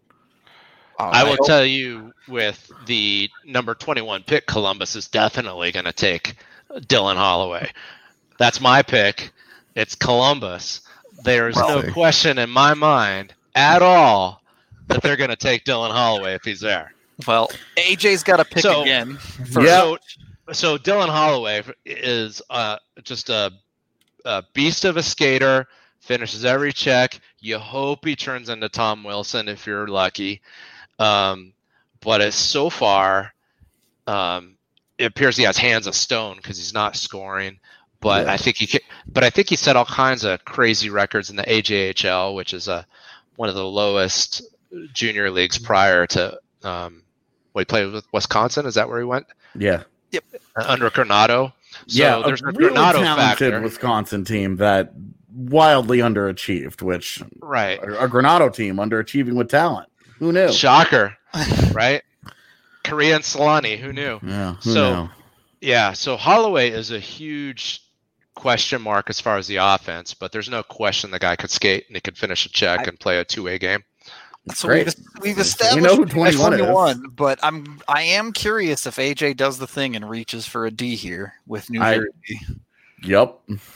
I will hope- tell you with the number twenty-one pick, Columbus is definitely going to take Dylan Holloway. That's my pick. It's Columbus. There's Well, no question in my mind at all that they're going to take Dylan Holloway if he's there. Well, A J's got to pick So- again. For, Yeah. so, so Dylan Holloway is uh, just a, a beast of a skater, finishes every check. You hope he turns into Tom Wilson if you're lucky. Um, but it's so far, um, it appears he has hands of stone because he's not scoring. But Yeah. I think he, ca- but I think he set all kinds of crazy records in the A J H L, which is a one of the lowest junior leagues prior to. Um, what he played with Wisconsin? Is that where he went? Yeah. Uh, under Granado. So yeah, there's a a really Granado talented factor. Wisconsin team that wildly underachieved, which Right. a, a Granado team underachieving with talent. Who knew? Shocker. Right? Korea and Solani, who knew? Yeah, who So- knew? Yeah, so Holloway is a huge question mark as far as the offense, but there's no question the guy could skate and he could finish a check I- and play a two-way game. So Great. we've, we've We established know who twenty-one is. twenty-one, but I'm I am curious if A J does the thing and reaches for a D here with New I- Jersey. Yep.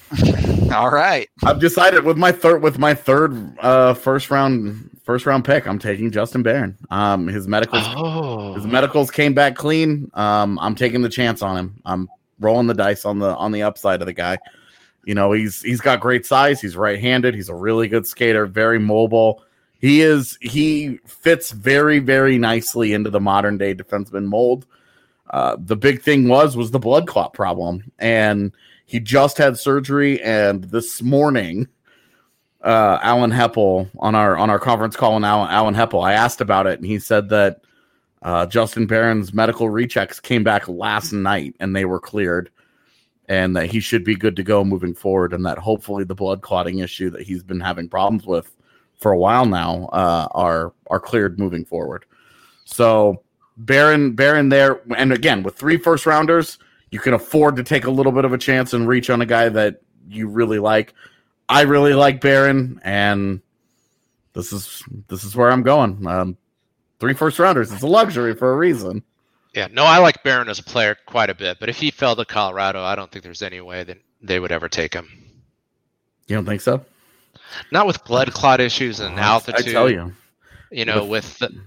All right. I've decided with my third with my third uh first round first round pick, I'm taking Justin Barron. Um his medicals Oh. his medicals came back clean. Um I'm taking the chance on him. I'm rolling the dice on the on the upside of the guy. You know, he's he's got great size. He's right-handed. He's a really good skater, very mobile. He is he fits very, very nicely into the modern day defenseman mold. Uh, the big thing was was the blood clot problem, and he just had surgery. And this morning, uh, Alan Heppel on our on our conference call, and Alan, Alan Heppel, I asked about it, and he said that uh, Justin Barron's medical rechecks came back last night, and they were cleared. And that he should be good to go moving forward, and that hopefully the blood clotting issue that he's been having problems with for a while now uh, are are cleared moving forward. So Barron, Barron there, and again with three first rounders, you can afford to take a little bit of a chance and reach on a guy that you really like. I really like Barron, and this is this is where I'm going. Um, three first rounders, it's a luxury for a reason. Yeah, no, I like Barron as a player quite a bit, but if he fell to Colorado, I don't think there's any way that they would ever take him. You don't think so? Not with blood clot issues and altitude. I tell you. You know, with, with the,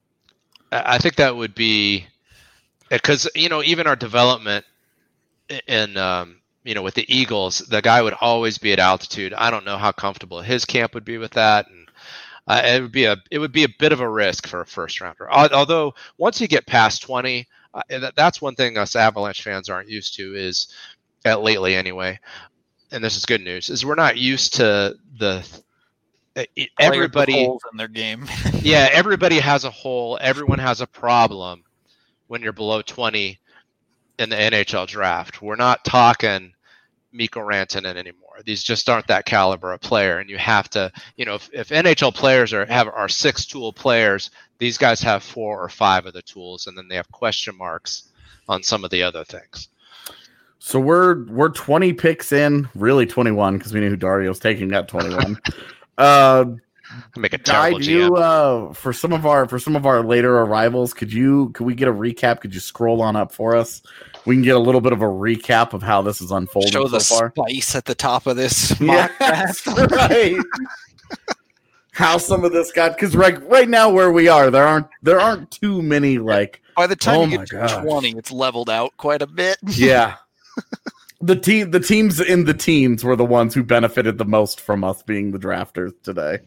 I think that would be because, you know, even our development in, um, you know, with the Eagles, the guy would always be at altitude. I don't know how comfortable his camp would be with that. And Uh, it would be a it would be a bit of a risk for a first rounder. Although once you get past twenty, uh, that, that's one thing us Avalanche fans aren't used to is, at lately anyway, and this is good news, is we're not used to the uh, everybody holes in their game. Yeah, everybody has a hole. Everyone has a problem when you're below twenty in the N H L draft. We're not talking Mikko Rantanen anymore. These just aren't that caliber of player, and you have to, you know, if, if N H L players are have are six tool players, these guys have four or five of the tools, and then they have question marks on some of the other things. So we're we're twenty picks in, really twenty-one because we knew who Dario's taking at twenty-one. uh, Make a terrible Guy, do you, uh, for some of our for some of our later arrivals, could you could we get a recap? Could you scroll on up for us? We can get a little bit of a recap of how this is unfolding Show so the far. spice at the top of this. Yeah, That's right. How some of this got because right right now where we are, there aren't there aren't too many like. By the time oh you my get to gosh. twenty, it's leveled out quite a bit. Yeah. The team the teams in the teens were the ones who benefited the most from us being the drafters today.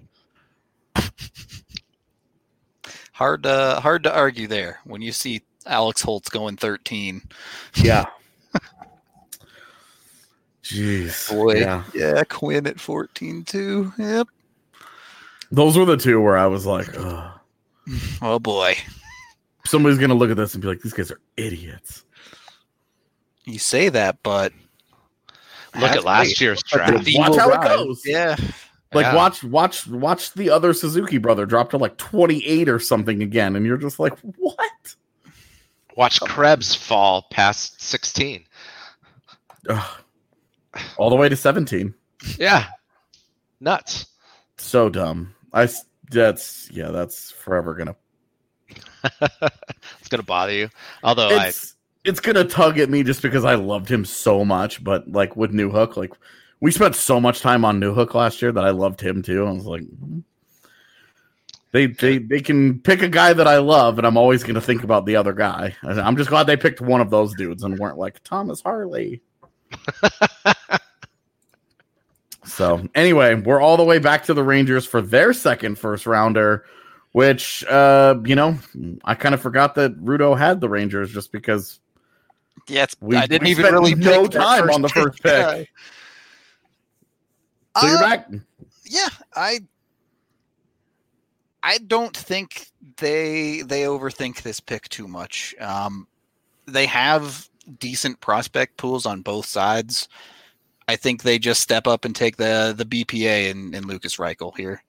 Hard to hard to argue there when you see Alex Holtz going thirteen. Yeah. Jeez. Boy, Yeah. yeah, Quinn at fourteen too. Yep. Those were the two where I was like, ugh. Oh boy. Somebody's gonna look at this and be like, these guys are idiots. You say that, but Look at last year's draft. The Watch evil how it ride. goes. Yeah. Like Yeah. watch, watch, watch the other Suzuki brother drop to like twenty-eight or something again, and you're just like, what? Watch Krebs fall past sixteen. Ugh. All the way to seventeen. Yeah, nuts. So dumb. I s- that's yeah, that's forever gonna. It's gonna bother you. Although It's it's gonna tug at me just because I loved him so much, but like with New Hook, like we spent so much time on New Hook last year that I loved him too. I was like, hmm. they they they can pick a guy that I love, and I'm always gonna think about the other guy. And I'm just glad they picked one of those dudes and weren't like Thomas Harley. So anyway, we're all the way back to the Rangers for their second first rounder, which uh, you know, I kind of forgot that Rudo had the Rangers just because Yeah, it's, we, I didn't we even spent really no pick that time first on the first pick. Yeah. So you're Uh, back. Yeah, I I don't think they they overthink this pick too much. Um, they have decent prospect pools on both sides. I think they just step up and take the the B P A in, in Lucas Reichel here.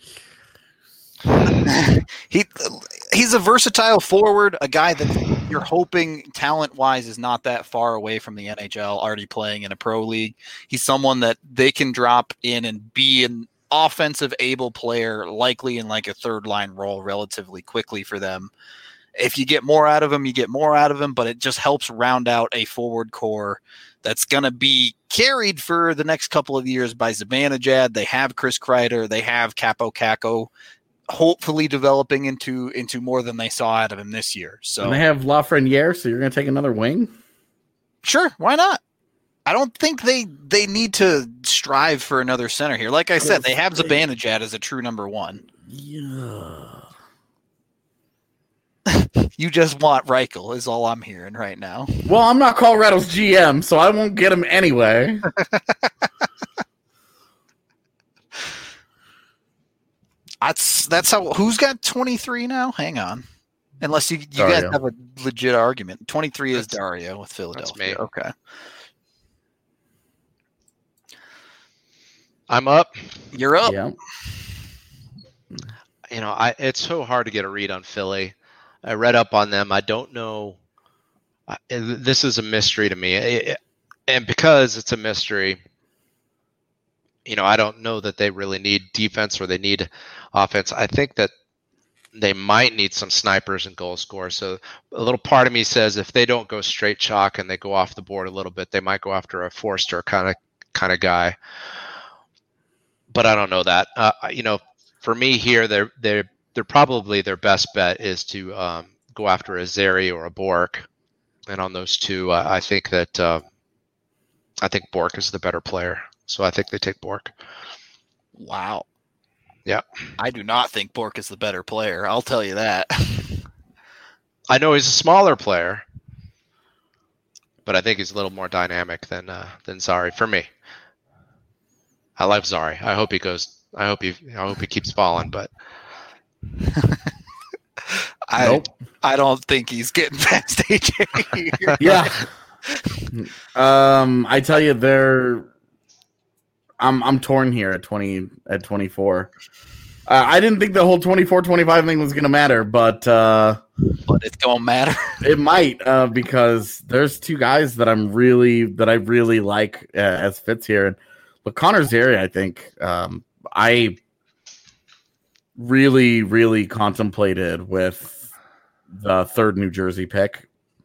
he he's a versatile forward, a guy that you're hoping talent wise is not that far away from the N H L, already playing in a pro league. He's someone that they can drop in and be an offensive able player, likely in like a third line role relatively quickly for them. If you get more out of him, you get more out of him, but it just helps round out a forward core that's going to be carried for the next couple of years by Zibanejad. They have Chris Kreider. They have Capo Caco, hopefully developing into into more than they saw out of him this year. So And they have Lafreniere, so you're going to take another wing? Sure, why not? I don't think they they need to strive for another center here. Like I said, they have Zibanejad as a true number one. Yeah. You just want Reichel is all I'm hearing right now. Well, I'm not Colorado's G M, so I won't get him anyway. That's that's how. Who's got twenty-three now? Hang on. Unless you, you guys Dario. have a legit argument. twenty-three is That's- Dario with Philadelphia. me. Okay. I'm up. You're up. Yeah. You know, I it's so hard to get a read on Philly. I read up on them. I don't know. I- This is a mystery to me, It- and because it's a mystery, you know, I don't know that they really need defense or they need offense. I think that they might need some snipers and goal scorers. So a little part of me says if they don't go straight chalk and they go off the board a little bit, they might go after a Forster kind of kind of guy. But I don't know that. Uh, you know, for me here, they're they're they're probably their best bet is to um, go after a Zeri or a Bork, and on those two, uh, I think that uh, I think Bork is the better player. So I think they take Bork. Wow. Yeah. I do not think Bork is the better player. I'll tell you that. I know he's a smaller player, but I think he's a little more dynamic than uh, than Zari for me. I like Zari. I hope he goes. I hope he. I hope he keeps falling. But I Nope. I don't think he's getting past A J here. Yeah. um, I tell you, they're. I'm I'm torn here at twenty at twenty-four. Uh, I didn't think the whole twenty-four twenty-five thing was going to matter, but uh, But it's gonna matter. it might uh, because there's two guys that I'm really that I really like uh, as fits here. But Connor Zeri, I think um, I really really contemplated with the third New Jersey pick.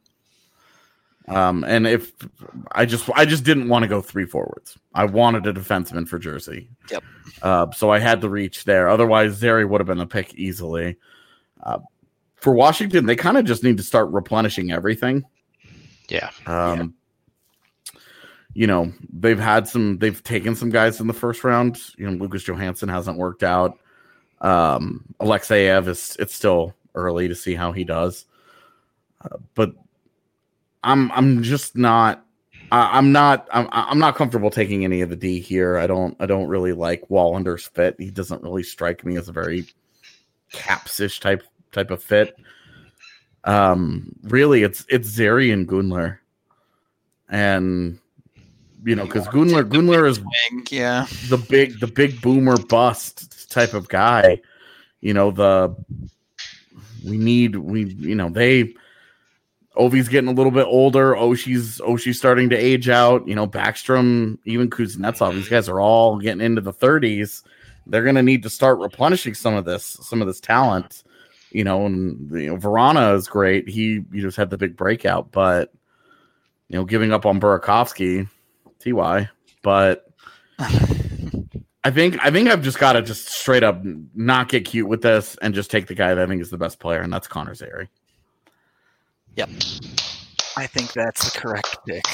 Um, and if I just I just didn't want to go three forwards. I wanted a defenseman for Jersey. Yep. Uh, so I had to reach there. Otherwise, Zeri would have been a pick easily. Uh, for Washington, they kind of just need to start replenishing everything. yeah, Um, You know, they've had some. They've taken some guys in the first round. You know, Lucas Johansson hasn't worked out. Um, Alexeyev is. It's still early to see how he does. Uh, but I'm I'm just not I, I'm not I'm I'm not comfortable taking any of the D here. I don't I don't really like Wallander's fit. He doesn't really strike me as a very Caps-ish type type of fit. Um, really, it's it's Zeri and Gunler, and you know because Gunler Gunler is Yeah. the big the big boomer bust type of guy. You know the we need we you know they. Ovi's getting a little bit older. Oshie's Oshie's starting to age out. You know, Backstrom, even Kuznetsov, these guys are all getting into the thirties. They're going to need to start replenishing some of this, some of this talent. You know, and you know, Verana is great. He you just had the big breakout, but you know, giving up on Burakovsky, T Y. But I think I think I've just got to just straight up not get cute with this and just take the guy that I think is the best player, and that's Connor Zeri. Yep. I think that's the correct pick.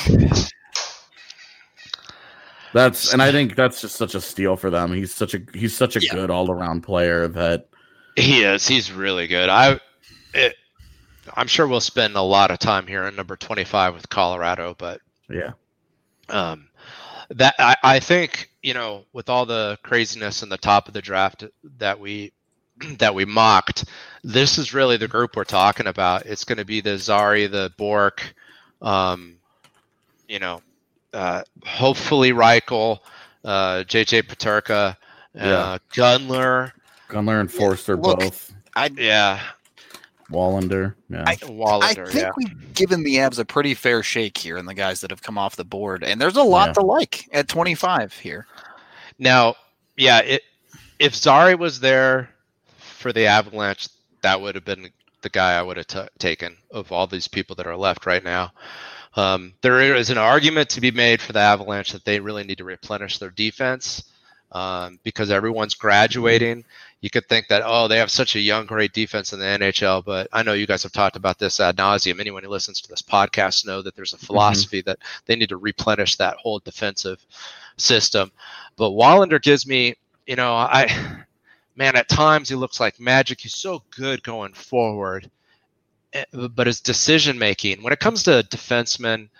That's and I think that's just such a steal for them. He's such a he's such a Yeah. good all around player that he is. He's really good. I, it, I'm sure we'll spend a lot of time here in number twenty-five with Colorado, but yeah. um, that I, I think you know with all the craziness in the top of the draft that we that we mocked, this is really the group we're talking about. It's going to be the Zari, the Bork, um, you know, uh, hopefully Reichel, uh, J J Peterka, uh, Yeah. Gunler. Gunler and Forster Look, both. I Yeah. Wallander. Yeah. I- I Wallander, think yeah. we've given the Avs a pretty fair shake here in the guys that have come off the board, and there's a lot Yeah. to like at twenty-five here. Now, yeah, it, if Zari was there for the Avalanche, that would have been the guy I would have t- taken of all these people that are left right now. Um, there is an argument to be made for the Avalanche that they really need to replenish their defense um, because everyone's graduating. you could think that, oh, they have such a young, great defense in the N H L, but I know you guys have talked about this ad nauseum. Anyone who listens to this podcast know that there's a philosophy mm-hmm. that they need to replenish that whole defensive system. But Wallinder gives me, you know, I, man, at times he looks like magic. He's so good going forward, but his decision making, when it comes to defensemen,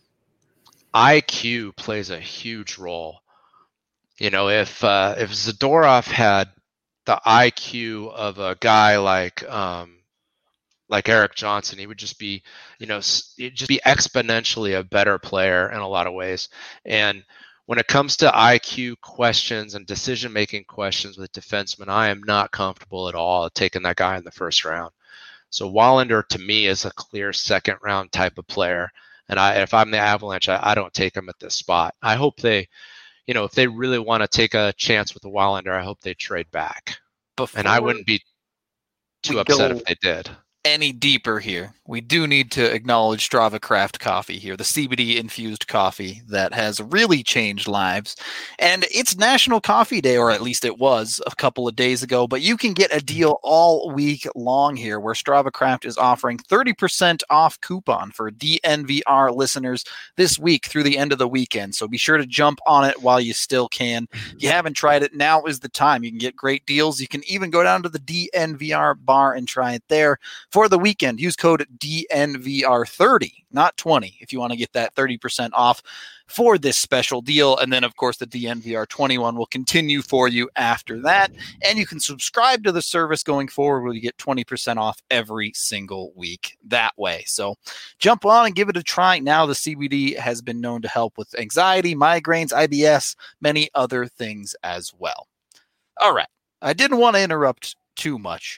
I Q plays a huge role. You know, if uh, if Zadorov had the I Q of a guy like um, like Eric Johnson, he would just be, you know, he'd just be exponentially a better player in a lot of ways. And when it comes to I Q questions and decision-making questions with defensemen, I am not comfortable at all taking that guy in the first round. So Wallinder, to me, is a clear second-round type of player. And I, if I'm the Avalanche, I, I don't take him at this spot. I hope they, you know, if they really want to take a chance with the Wallinder, I hope they trade back. Before and I wouldn't be too upset if they did. Any deeper here, we do need to acknowledge Strava Craft Coffee here, the C B D infused coffee that has really changed lives. And it's National Coffee Day, or at least it was a couple of days ago, but you can get a deal all week long here where Strava Craft is offering thirty percent off coupon for D N V R listeners this week through the end of the weekend. So be sure to jump on it while you still can. If you haven't tried it, now is the time. You can get great deals. You can even go down to the D N V R bar and try it there. For the weekend, use code D N V R thirty, not twenty, if you want to get that thirty percent off for this special deal. And then, of course, the D N V R twenty-one will continue for you after that. And you can subscribe to the service going forward where you get twenty percent off every single week that way. So jump on and give it a try. Now the C B D has been known to help with anxiety, migraines, I B S, many other things as well. All right. I didn't want to interrupt too much.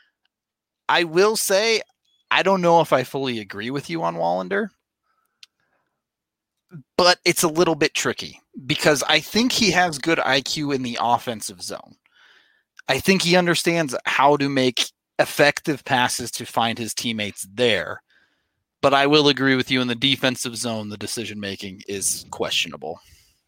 I will say, I don't know if I fully agree with you on Wallinder, but it's a little bit tricky because I think he has good I Q in the offensive zone. I think he understands how to make effective passes to find his teammates there. But I will agree with you in the defensive zone, the decision-making is questionable.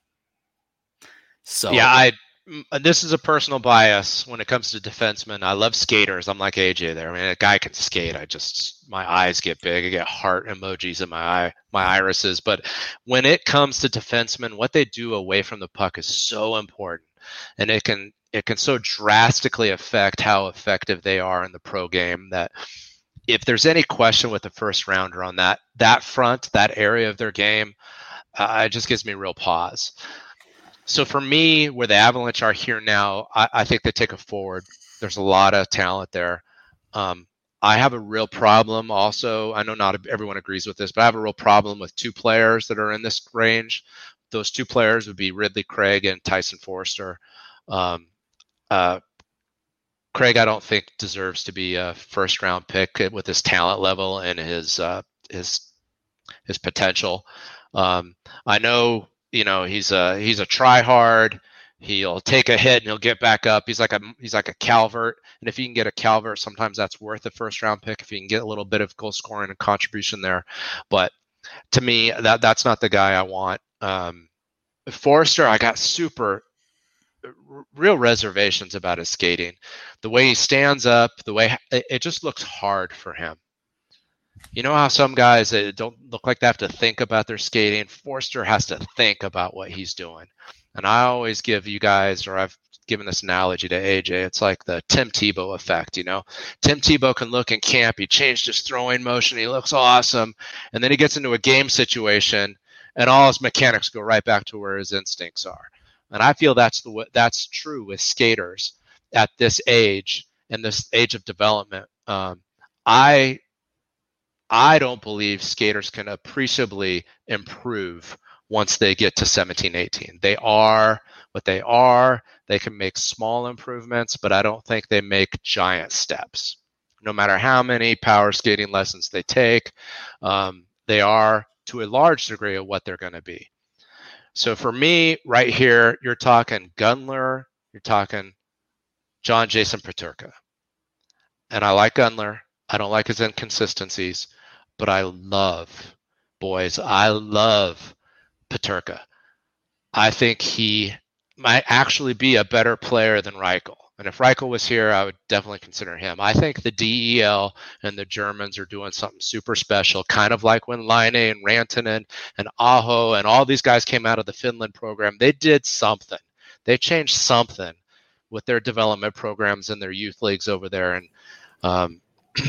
So yeah, I this is a personal bias when it comes to defensemen. I love skaters. I'm like A J there. I mean, a guy can skate. I just, my eyes get big. I get heart emojis in my eye, my irises. But when it comes to defensemen, what they do away from the puck is so important. And it can, it can so drastically affect how effective they are in the pro game that if there's any question with the first rounder on that, that front, that area of their game, uh, it just gives me real pause. So for me, where the Avalanche are here now, I, I think they take a forward. There's a lot of talent there. Um, I have a real problem also. I know not everyone agrees with this, but I have a real problem with two players that are in this range. Those two players would be Ridley Craig and Tyson Foerster. Um, uh, Craig, I don't think deserves to be a first round pick with his talent level and his uh, his his potential. Um, I know. You know, he's a he's a try hard. He'll take a hit and he'll get back up. He's like a he's like a Calvert, and if you can get a Calvert, sometimes that's worth a first round pick if you can get a little bit of goal scoring and contribution there. But to me, that that's not the guy I want. Um, Foerster, I got super r- real reservations about his skating, the way he stands up, the way it, it just looks hard for him. You know how some guys that don't look like they have to think about their skating? Foerster has to think about what he's doing. And I always give you guys, or I've given this analogy to A J, it's like the Tim Tebow effect, you know? Tim Tebow can look in camp, he changed his throwing motion, he looks awesome, and then he gets into a game situation, and all his mechanics go right back to where his instincts are. And I feel that's the that's true with skaters at this age, and this age of development. Um, I... I don't believe skaters can appreciably improve once they get to seventeen, eighteen. They are what they are. They can make small improvements, but I don't think they make giant steps. No matter how many power skating lessons they take, um, they are to a large degree of what they're going to be. So for me, right here, you're talking Gunler, you're talking John Jason Peterka. And I like Gunler. I don't like his inconsistencies. But I love, boys, I love Peterka. I think he might actually be a better player than Reichel. And if Reichel was here, I would definitely consider him. I think the D E L and the Germans are doing something super special, kind of like when Laine and Rantanen and Aho and all these guys came out of the Finland program. They did something. They changed something with their development programs and their youth leagues over there in, um,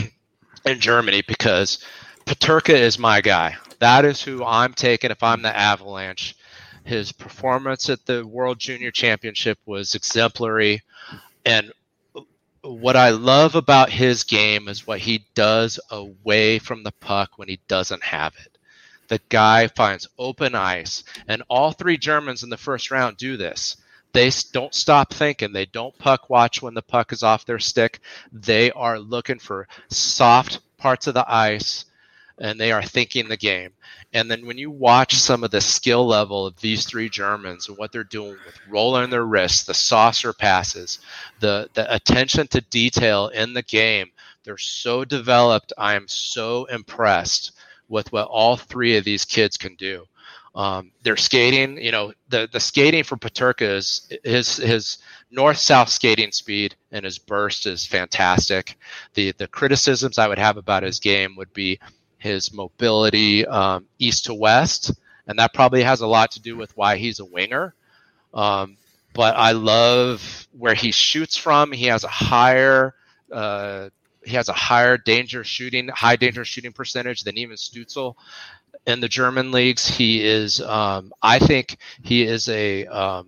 in Germany, because Peterka is my guy. That is who I'm taking if I'm the Avalanche. His performance at the World Junior Championship was exemplary. And what I love about his game is what he does away from the puck when he doesn't have it. The guy finds open ice, and all three Germans in the first round do this. They don't stop thinking. They don't puck watch when the puck is off their stick. They are looking for soft parts of the ice, and they are thinking the game. And then when you watch some of the skill level of these three Germans and what they're doing with rolling their wrists, the saucer passes, the, the attention to detail in the game, they're so developed. I am so impressed with what all three of these kids can do. Um, their skating, you know, the, the skating for Peterka is his, his north-south skating speed and his burst is fantastic. The, the criticisms I would have about his game would be his mobility um, east to west, and that probably has a lot to do with why he's a winger. Um, but I love where he shoots from. He has a higher uh, he has a higher danger shooting, high danger shooting percentage than even Stützle in the German leagues. He is, um, I think, he is a um,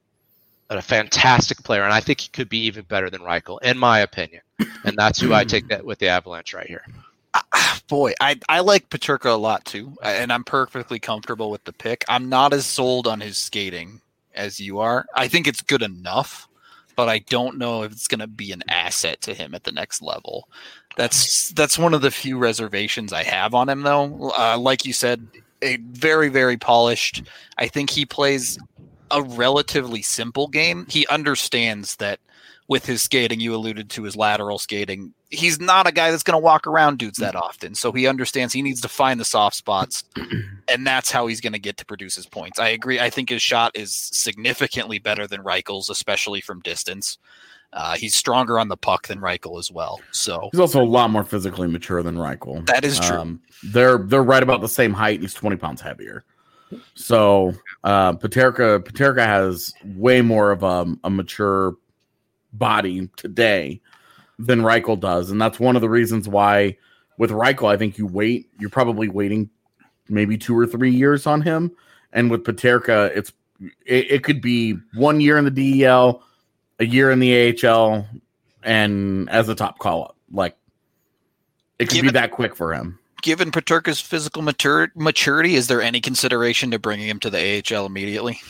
a fantastic player, and I think he could be even better than Reichel, in my opinion. And that's who I take that with the Avalanche right here. Boy, I, I like Peterka a lot too, and I'm perfectly comfortable with the pick. I'm not as sold on his skating as you are. I think it's good enough, but I don't know if it's going to be an asset to him at the next level. That's that's one of the few reservations I have on him, though. Uh, like you said, a very, very polished. I think he plays a relatively simple game. He understands that with his skating, you alluded to his lateral skating, he's not a guy that's going to walk around dudes that often. So he understands he needs to find the soft spots, and that's how he's going to get to produce his points. I agree. I think his shot is significantly better than Reichel's, especially from distance. Uh, he's stronger on the puck than Reichel as well. So he's also a lot more physically mature than Reichel. That is true. Um, they're they're right about the same height. He's twenty pounds heavier. So uh, Peterka Peterka has way more of a, a mature body today than Reichel does, and that's one of the reasons why with Reichel, I think you wait. You're probably waiting maybe two or three years on him, and with Peterka, it's it, it could be one year in the D E L, a year in the A H L, and as a top call up. Like it could given, be that quick for him. Given Peterka's physical matur- maturity, is there any consideration to bringing him to the A H L immediately?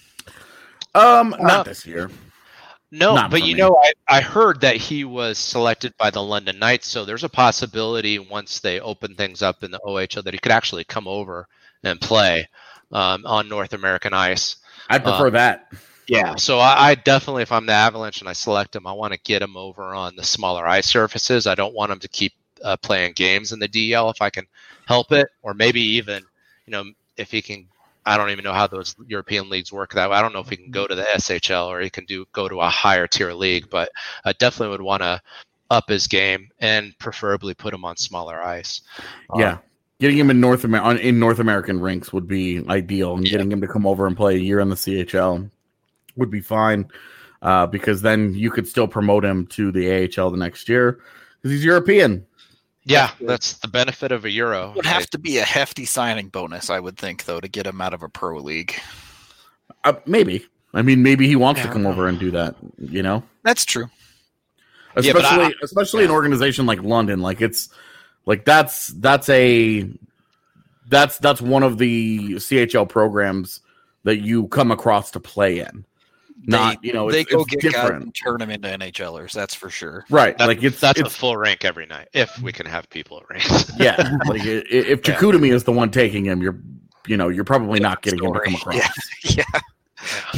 Um, not No. this year. No, Not but for you me. know, I, I heard that he was selected by the London Knights, so there's a possibility once they open things up in the O H L that he could actually come over and play um, on North American ice. I'd prefer Um, that. Yeah, so I, I definitely, if I'm the Avalanche and I select him, I want to get him over on the smaller ice surfaces. I don't want him to keep uh, playing games in the D E L if I can help it, or maybe even, you know, if he can. I don't even know how those European leagues work that way. I don't know if he can go to the S H L or he can do go to a higher tier league, but I definitely would want to up his game and preferably put him on smaller ice. Yeah. Um, Getting him in North Amer- in North American rinks would be ideal, and Yeah. getting him to come over and play a year in the C H L would be fine, uh, because then you could still promote him to the A H L the next year because he's European. yeah, that's the benefit of a Euro. Would have to be a hefty signing bonus, I would think, though, to get him out of a pro league. Uh, maybe. I mean, maybe he wants Yeah, to I come don't over and do that. You know, That's true. Yeah, but especially I- especially an yeah. organization like London. Like it's like that's that's a that's that's one of the C H L programs that you come across to play in. Not they, you know, they it's, go it's get guys different, and turn them into N H Lers. That's for sure. right? That- like it's that's it's a full rink every night if we can have people at rinks. yeah. Like i- i- if Yeah. Chicoutimi is the one taking him, you're you know you're probably not getting him to come across. Yeah, yeah. Yeah.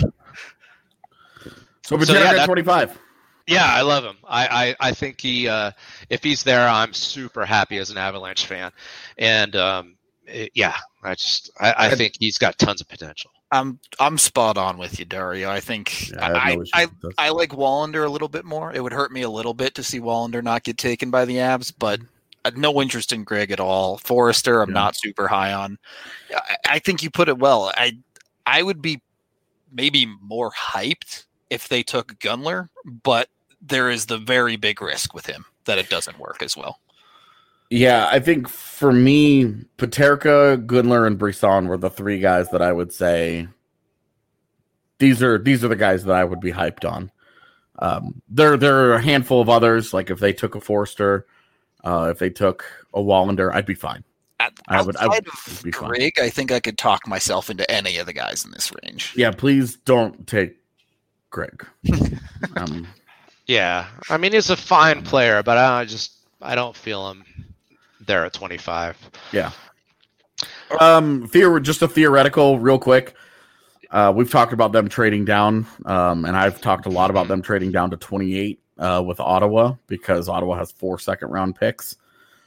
So, So, Peterka yeah, at that- twenty-five. Yeah, I love him. I, I, I think he, uh, if he's there, I'm super happy as an Avalanche fan. And um, it- yeah, I just, I, I think he's got tons of potential. I'm I'm spot on with you, Dario. I think Yeah, I have I no issues I, with this. I like Wallander a little bit more. It would hurt me a little bit to see Wallander not get taken by the Abs, but I have no interest in Greg at all. Forrester, I'm Yeah. not super high on. I, I think you put it well. I I would be maybe more hyped if they took Gunler, but there is the very big risk with him that it doesn't work as well. Yeah, I think for me, Paterka, Gunler, and Brisson were the three guys that I would say these are these are the guys that I would be hyped on. Um, there there are a handful of others, like if they took a Forster, uh, if they took a Wallander, I'd be fine. At, I would- I outside would of be fine. Greg, I think I could talk myself into any of the guys in this range. Yeah, please don't take Greg. um, Yeah, I mean he's a fine player, but I just I don't feel him there at twenty-five. Yeah. Um, theor- just a theoretical, real quick. Uh, we've talked about them trading down, um, and I've talked a lot about them trading down to twenty-eight uh, with Ottawa because Ottawa has four second round picks.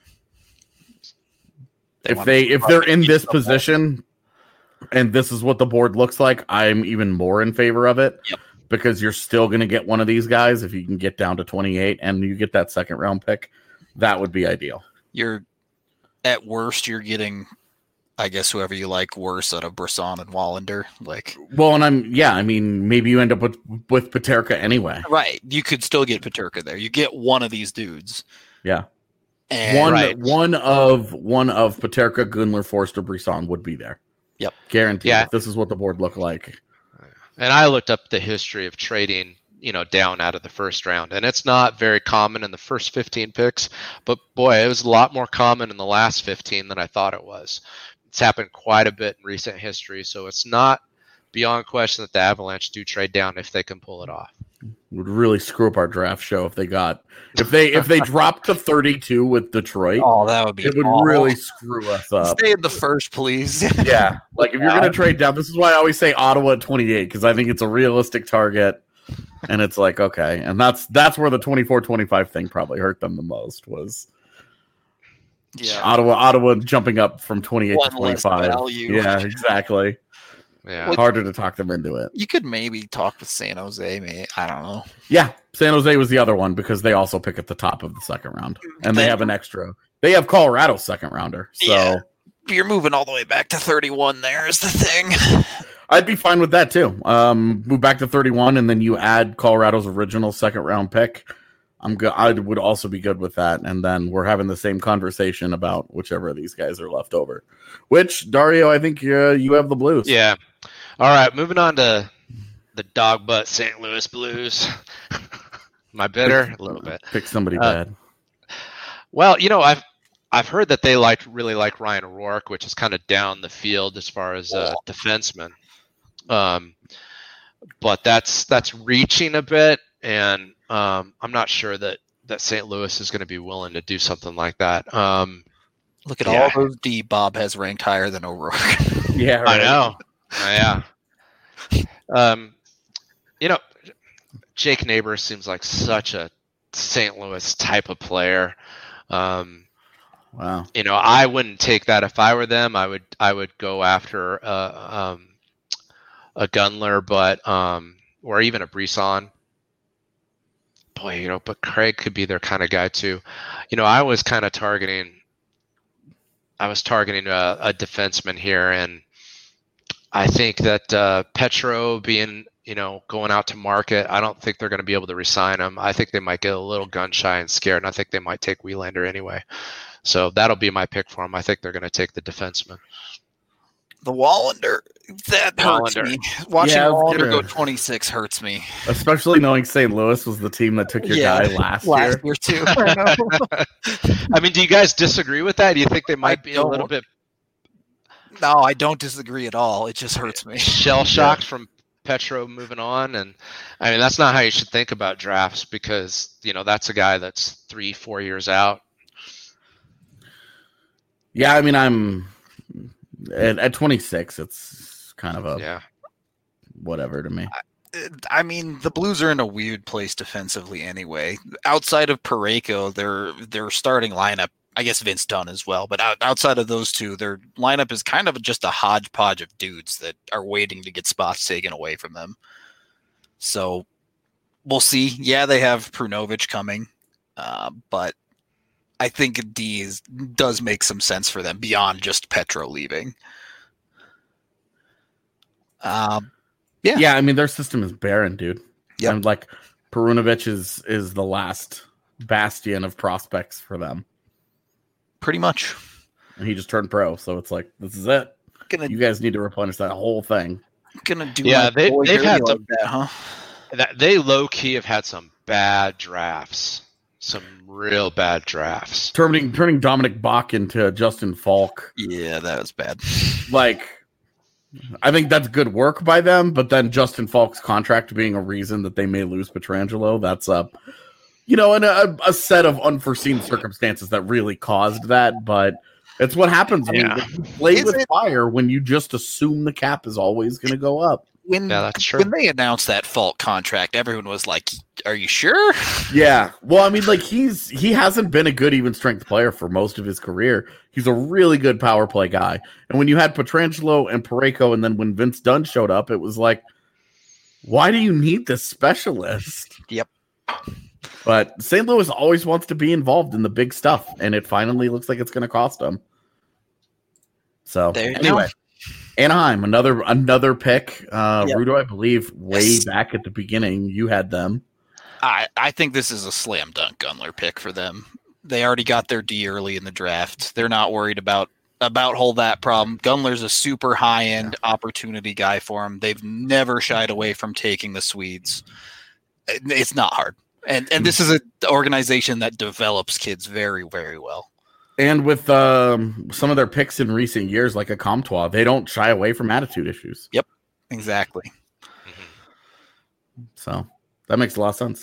They if wanna they if they're in keep this the ball. position, and this is what the board looks like, I'm even more in favor of it. Yep. Because you're still going to get one of these guys if you can get down to twenty-eight and you get that second round pick. That would be ideal. You're at worst, you're getting, I guess, whoever you like worse out of Brisson and Wallander. Like, Well, and I'm yeah, I mean, maybe you end up with with Paterka anyway. right, you could still get Paterka there. You get one of these dudes. Yeah. And One Right. one of one of Paterka, Gunler, Forster, Brisson would be there. Yep. Guaranteed. Yeah. If this is what the board looked like. And I looked up the history of trading, you know, down out of the first round, and it's not very common in the first fifteen picks, but boy, it was a lot more common in the last fifteen than I thought it was. It's happened quite a bit in recent history, so it's not beyond question that the Avalanche do trade down if they can pull it off. Would really screw up our draft show if they got if they if they dropped to thirty-two with Detroit. oh, that would be It would awful. really screw us up. Stay in the first, please. Yeah. Like if you're gonna trade down, this is why I always say Ottawa at twenty-eight, because I think it's a realistic target. And it's like, okay. And that's that's where the twenty-four twenty-five thing probably hurt them the most was yeah. Ottawa Ottawa jumping up from twenty-eight One to less twenty-five. value. Yeah, exactly. Yeah. Harder to talk them into it. You could maybe talk with San Jose. Maybe I don't know. Yeah, San Jose was the other one because they also pick at the top of the second round, and they They- have an extra. They have Colorado's second rounder, so Yeah. You're moving all the way back to thirty-one. There is the thing. I'd be fine with that too. Um, move back to thirty-one, and then you add Colorado's original second round pick. I'm good. I would also be good with that, and then we're having the same conversation about whichever of these guys are left over. Which Dario, I think uh, you have the Blues. Yeah. All right, moving on to the dog butt Saint Louis Blues. Am I bitter? A little bit. Pick somebody Uh, bad. Well, you know, I've I've heard that they like really like Ryan O'Rourke, which is kind of down the field as far as uh, defenseman. Um, but that's that's reaching a bit, and um, I'm not sure that that Saint Louis is going to be willing to do something like that. Um, Look at Yeah. all those D Bob has ranked higher than O'Rourke. Yeah, I know. Uh, yeah. Um, you know, Jake Neighbors seems like such a Saint Louis type of player. Um, Wow. you know, I wouldn't take that if I were them. I would I would go after uh, um, a Gunler, but um, or even a Brisson. Boy, you know, but Craig could be their kind of guy too. You know, I was kind of targeting. I was targeting a, a defenseman here, and I think that uh, Petro being, you know, going out to market, I don't think they're going to be able to re-sign him. I think they might get a little gun shy and scared, and I think they might take Wielander anyway. So that'll be my pick for him. I think they're going to take the defenseman. The Wallander, that hurts Wallander. me. Watching Yeah, I was Wallander gonna- go twenty-six hurts me. Especially knowing Saint Louis was the team that took your Yeah, guy last, Last year. year too. I know. I mean, do you guys disagree with that? Do you think they might I be a little don't. bit No, I don't disagree at all. It just hurts me. shell shocked from Petro moving on? And I mean, that's not how you should think about drafts, because, you know, that's a guy that's three, four years out. Yeah, I mean, I'm at, at twenty-six. It's kind of a Yeah. whatever to me. I mean, the Blues are in a weird place defensively anyway. Outside of Parayko, their their starting lineup, I guess Vince Dunn as well. But out, outside of those two, their lineup is kind of just a hodgepodge of dudes that are waiting to get spots taken away from them. So we'll see. Yeah, they have Prunovich coming, uh, but I think D is, does make some sense for them beyond just Petro leaving. Um, yeah, yeah. I mean, their system is barren, dude. Yep. And like Perunovic is is the last bastion of prospects for them. Pretty much. And he just turned pro, so it's like this is it. Gonna, you guys need to replenish that whole thing. Gonna do. Yeah, they, they've had like some, that, huh? That, they low key have had some bad drafts, some real bad drafts. Turning turning Dominic Bach into Justin Falk. Yeah, that was bad. Like, I think that's good work by them, but then Justin Falk's contract being a reason that they may lose Pietrangelo, that's a, you know, and a, a set of unforeseen circumstances that really caused that. But it's what happens when Yeah. you play Is with it- fire when you just assume the cap is always going to go up. When, Yeah, that's true. when they announced that Falk contract, everyone was like, "Are you sure?" Yeah. Well, I mean, like he's he hasn't been a good even strength player for most of his career. He's a really good power play guy. And when you had Pietrangelo and Parayko, and then when Vince Dunn showed up, it was like, why do you need this specialist? Yep. But Saint Louis always wants to be involved in the big stuff, and it finally looks like it's going to cost them. So There you anyway, go. Anaheim, another another pick. Uh, Yep. Rudo, I believe, way Yes. back at the beginning, you had them. I, I think this is a slam dunk Gunler pick for them. They already got their D early in the draft. They're not worried about about whole that problem. Gunler's a super high end opportunity guy for them. They've never shied away from taking the Swedes. It- It's not hard, and and this is an organization that develops kids very very well. And with um, some of their picks in recent years, like a Comtois, they don't shy away from attitude issues. Exactly. So that makes a lot of sense.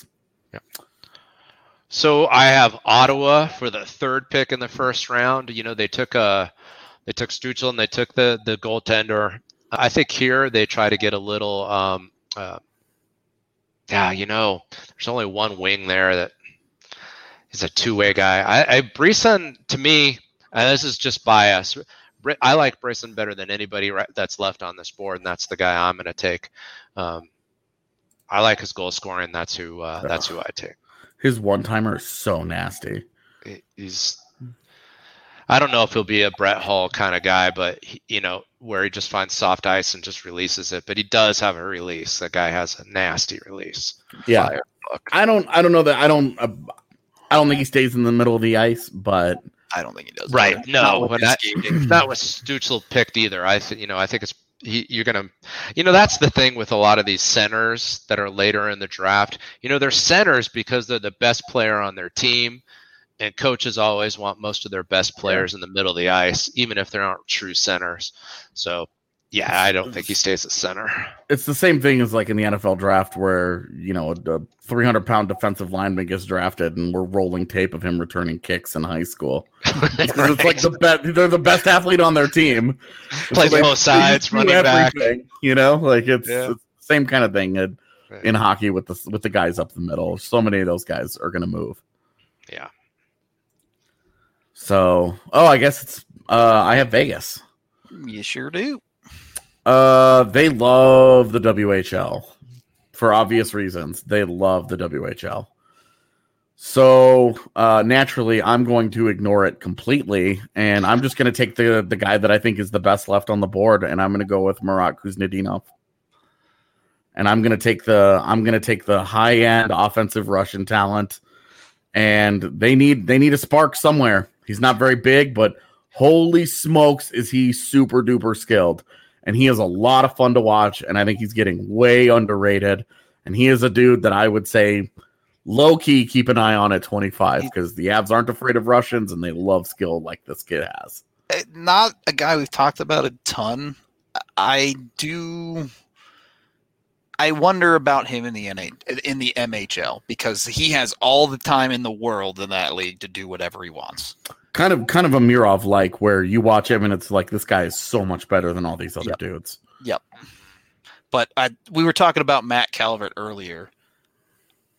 So I have Ottawa for the third pick in the first round. You know, they took a they took Stuchel and they took the the goaltender. I think here they try to get a little um uh, yeah, you know, there's only one wing there that is a two-way guy. I, I Brisson, to me, and this is just bias. Br- I like Brisson better than anybody right, that's left on this board, and that's the guy I'm going to take. Um, I like his goal scoring. That's who. Uh, that's who I take. His one timer is so nasty. He's I don't know if he'll be a Brett Hull kind of guy, but he, you know, where he just finds soft ice and just releases it. But he does have a release. That guy has a nasty release. Yeah, Fire. I don't. I don't know that. I don't. Uh, I don't think he stays in the middle of the ice, but I don't think he does. Right. Not No, with when his that, skating. that was Stuchel picked either. I think, you know, I think it's, he, you're going to, you know, that's the thing with a lot of these centers that are later in the draft. You know, they're centers because they're the best player on their team, and coaches always want most of their best players in the middle of the ice, even if they aren't true centers. So, yeah, I don't think he stays at center. it's the same thing as like in the N F L draft where, you know, a three hundred pound defensive lineman gets drafted and we're rolling tape of him returning kicks in high school. It's like the best, they're the best athlete on their team. Plays So they- both sides, they do running back. everything, you know, like it's, Yeah. it's the same kind of thing in, Right. in hockey with the with the guys up the middle. So many of those guys are going to move. Yeah. So, oh, I guess it's uh, I have Vegas. You sure do. Uh, they love the W H L for obvious reasons. They love the W H L. So uh, naturally, I'm going to ignore it completely, and I'm just going to take the the guy that I think is the best left on the board, and I'm going to go with Marat Kuznetsov. And I'm going to take the I'm going to take the high end offensive Russian talent, and they need they need a spark somewhere. He's not very big, but holy smokes, is he super duper skilled. And he is a lot of fun to watch, and I think he's getting way underrated. And he is a dude that I would say low-key keep an eye on at twenty-five because the Avs aren't afraid of Russians, and they love skill like this kid has. Uh, Not a guy we've talked about a ton. I do. I wonder about him in the N H in the M H L because he has all the time in the world in that league to do whatever he wants. Kind of kind of a Mirov like where you watch him and it's like this guy is so much better than all these other Yep. dudes. Yep. But I, we were talking about Matt Calvert earlier.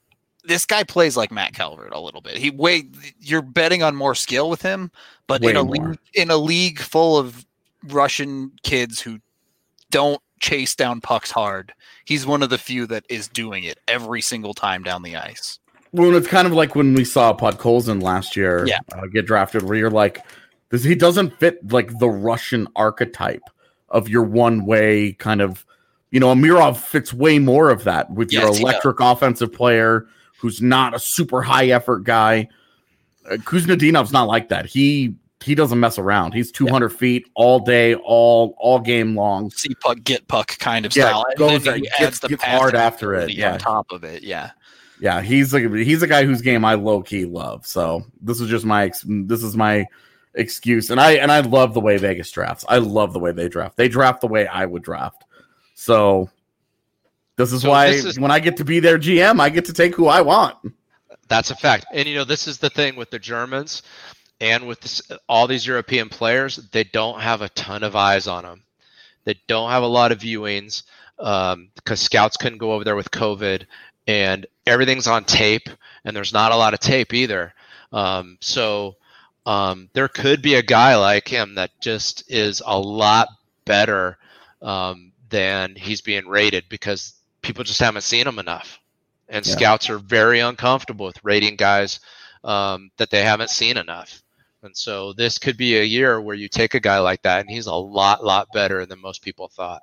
this guy plays like Matt Calvert a little bit. He wait, you're betting on more skill with him, but Way in a more. league, in a league full of Russian kids who don't chase down pucks hard, he's one of the few that is doing it every single time down the ice. Well, it's kind of like when we saw Podkolzin last year Yeah. uh, get drafted, where you're like, this, he doesn't fit like the Russian archetype of your one way kind of, you know, Amirov fits way more of that with Yes, your he electric offensive player who's not a super high effort guy. Uh, Kuznetsov's not like that. He he doesn't mess around. He's two hundred yeah. feet all day, all all game long. See puck, get puck kind of yeah, style. Goes, and then gets, gets, gets hard after it. Yeah. On top of it, yeah. Yeah, he's a he's a guy whose game I low key love. So this is just my this is my excuse, and I and I love the way Vegas drafts. I love the way they draft. They draft the way I would draft. So this is so why this is, when I get to be their G M, I get to take who I want. That's a fact. And you know, this is the thing with the Germans and with this, all these European players. They don't have a ton of eyes on them. They don't have a lot of viewings um, because scouts couldn't go over there with COVID. And everything's on tape, and there's not a lot of tape either. Um, so um, there could be a guy like him that just is a lot better um, than he's being rated because people just haven't seen him enough. And yeah. Scouts are very uncomfortable with rating guys um, that they haven't seen enough. And so this could be a year where you take a guy like that, and he's a lot, lot better than most people thought.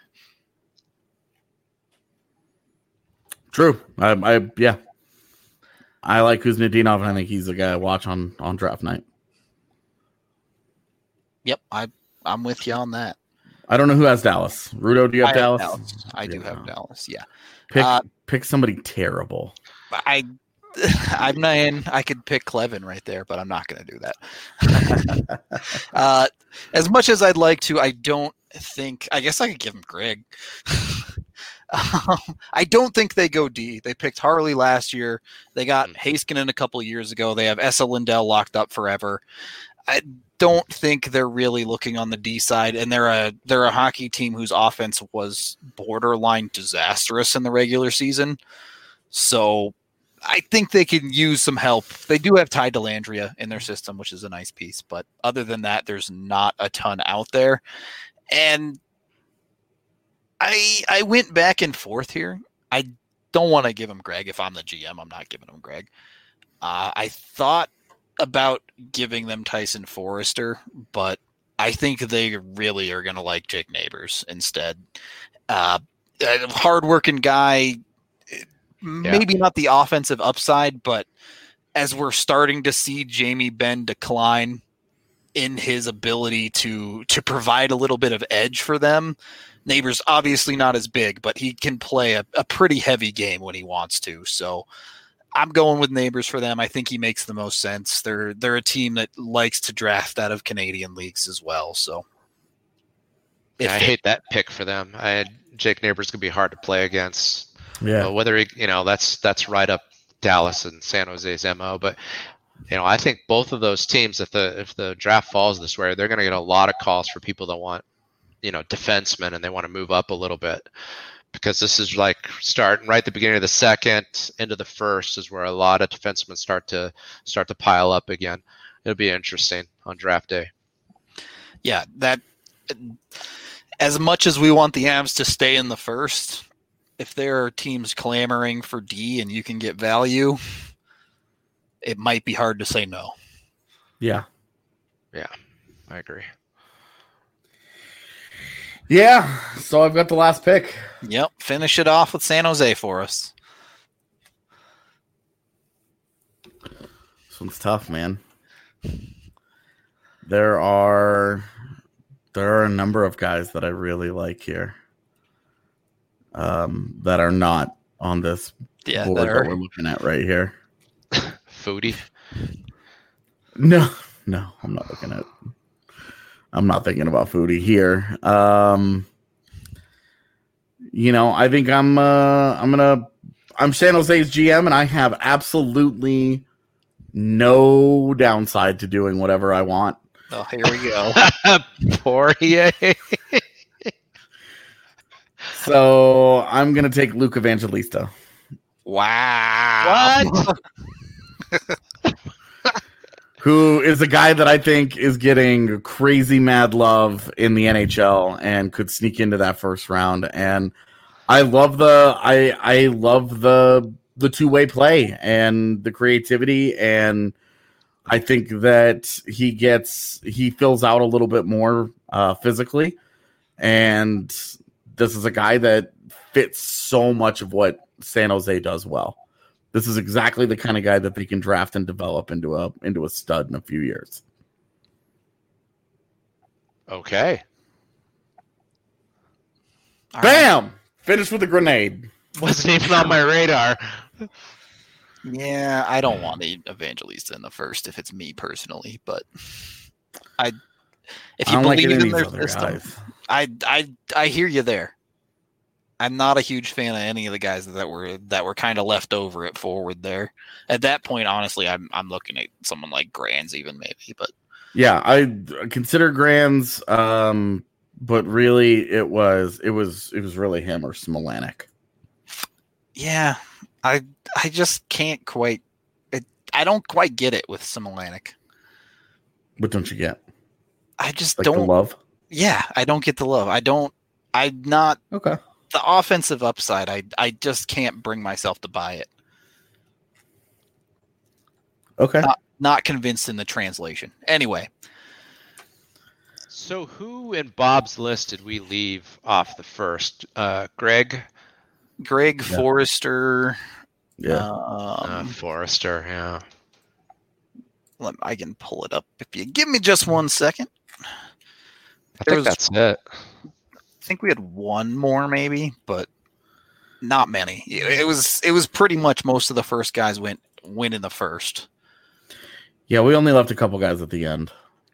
True. I, I yeah. I like Kuznetsov, and I think he's the guy I watch on, on draft night. Yep, I I'm with you on that. I don't know who has Dallas. Rudo, do you have I Dallas? Have Dallas? I yeah. do have Dallas. Yeah. Pick uh, pick somebody terrible. I I'm not in. I could pick Clevin right there, but I'm not going to do that. uh, as much as I'd like to, I don't think. I guess I could give him Greg. Um, I don't think they go D. They picked Harley last year. They got Heiskanen a couple of years ago. They have Esa Lindell locked up forever. I don't think they're really looking on the D side, and they're a they're a hockey team whose offense was borderline disastrous in the regular season. So I think they can use some help. They do have Ty Dellandrea in their system, which is a nice piece, but other than that, there's not a ton out there. And I I went back and forth here. I don't want to give him Greg. If I'm the G M, I'm not giving him Greg. Uh, I thought about giving them Tyson Forrester, but I think they really are going to like Jake Neighbors instead. Uh, a hardworking guy, maybe yeah. not the offensive upside, but as we're starting to see Jamie Benn decline in his ability to to provide a little bit of edge for them, Neighbors obviously not as big, but he can play a, a pretty heavy game when he wants to. So I'm going with Neighbors for them. I think he makes the most sense. They're they're a team that likes to draft out of Canadian leagues as well. So yeah, I hate that pick for them. I had Jake Neighbors could be hard to play against. Yeah, uh, whether he, you know that's that's right up Dallas and San Jose's M O. But you know, I think both of those teams, if the if the draft falls this way, they're going to get a lot of calls for people that want, you know, defensemen, and they want to move up a little bit, because this is like starting right at the beginning of the second into the first is where a lot of defensemen start to start to pile up again. It'll be interesting on draft day. Yeah, that as much as we want the Avs to stay in the first, if there are teams clamoring for D and you can get value, it might be hard to say no. Yeah. Yeah, I agree. Yeah, so I've got the last pick. Yep, finish it off with San Jose for us. This one's tough, man. There are there are a number of guys that I really like here, um, that are not on this yeah, board that, that we're looking at right here. Foodie? No, no, I'm not looking at. I'm not thinking about Foodie here. Um, you know, I think I'm uh, I'm gonna I'm San Jose's G M, and I have absolutely no downside to doing whatever I want. Oh, here we go. Poirier. So I'm gonna take Luke Evangelista. Wow. What? Who is a guy that I think is getting crazy mad love in the N H L and could sneak into that first round. And I love the I I love the the two-way play and the creativity, and I think that he gets he fills out a little bit more uh, physically, and this is a guy that fits so much of what San Jose does well. This is exactly the kind of guy that they can draft and develop into a into a stud in a few years. Okay. All right. Bam! Finish with a grenade. Wasn't even on my radar. Yeah, I don't want to Evangelista in the first if it's me personally, but I if I you don't like believe any in of their these other system, guys. I I I hear you there. I'm not a huge fan of any of the guys that were that were kind of left over at forward there. At that point, honestly, I'm I'm looking at someone like Grands even maybe, but Yeah, I consider Grands, um, but really it was it was it was really him or Smolanic. yeah, I I just can't quite. It, I don't quite get it with Smolanic. What don't you get? I just Like don't. the love? Yeah, I don't get the love. I don't. I'm not Okay. the offensive upside. I I just can't bring myself to buy it. Okay. Not, not convinced in the translation. Anyway, So who in Bob's list did we leave off the first? Uh, Greg? Greg Yeah. Forrester. Yeah. Uh, Um, Forrester, yeah. let, I can pull it up if you give me just one second. I There think was- that's it. I think we had one more maybe, but not many. It was it was pretty much most of the first guys went went in the first. Yeah, we only left a couple guys at the end.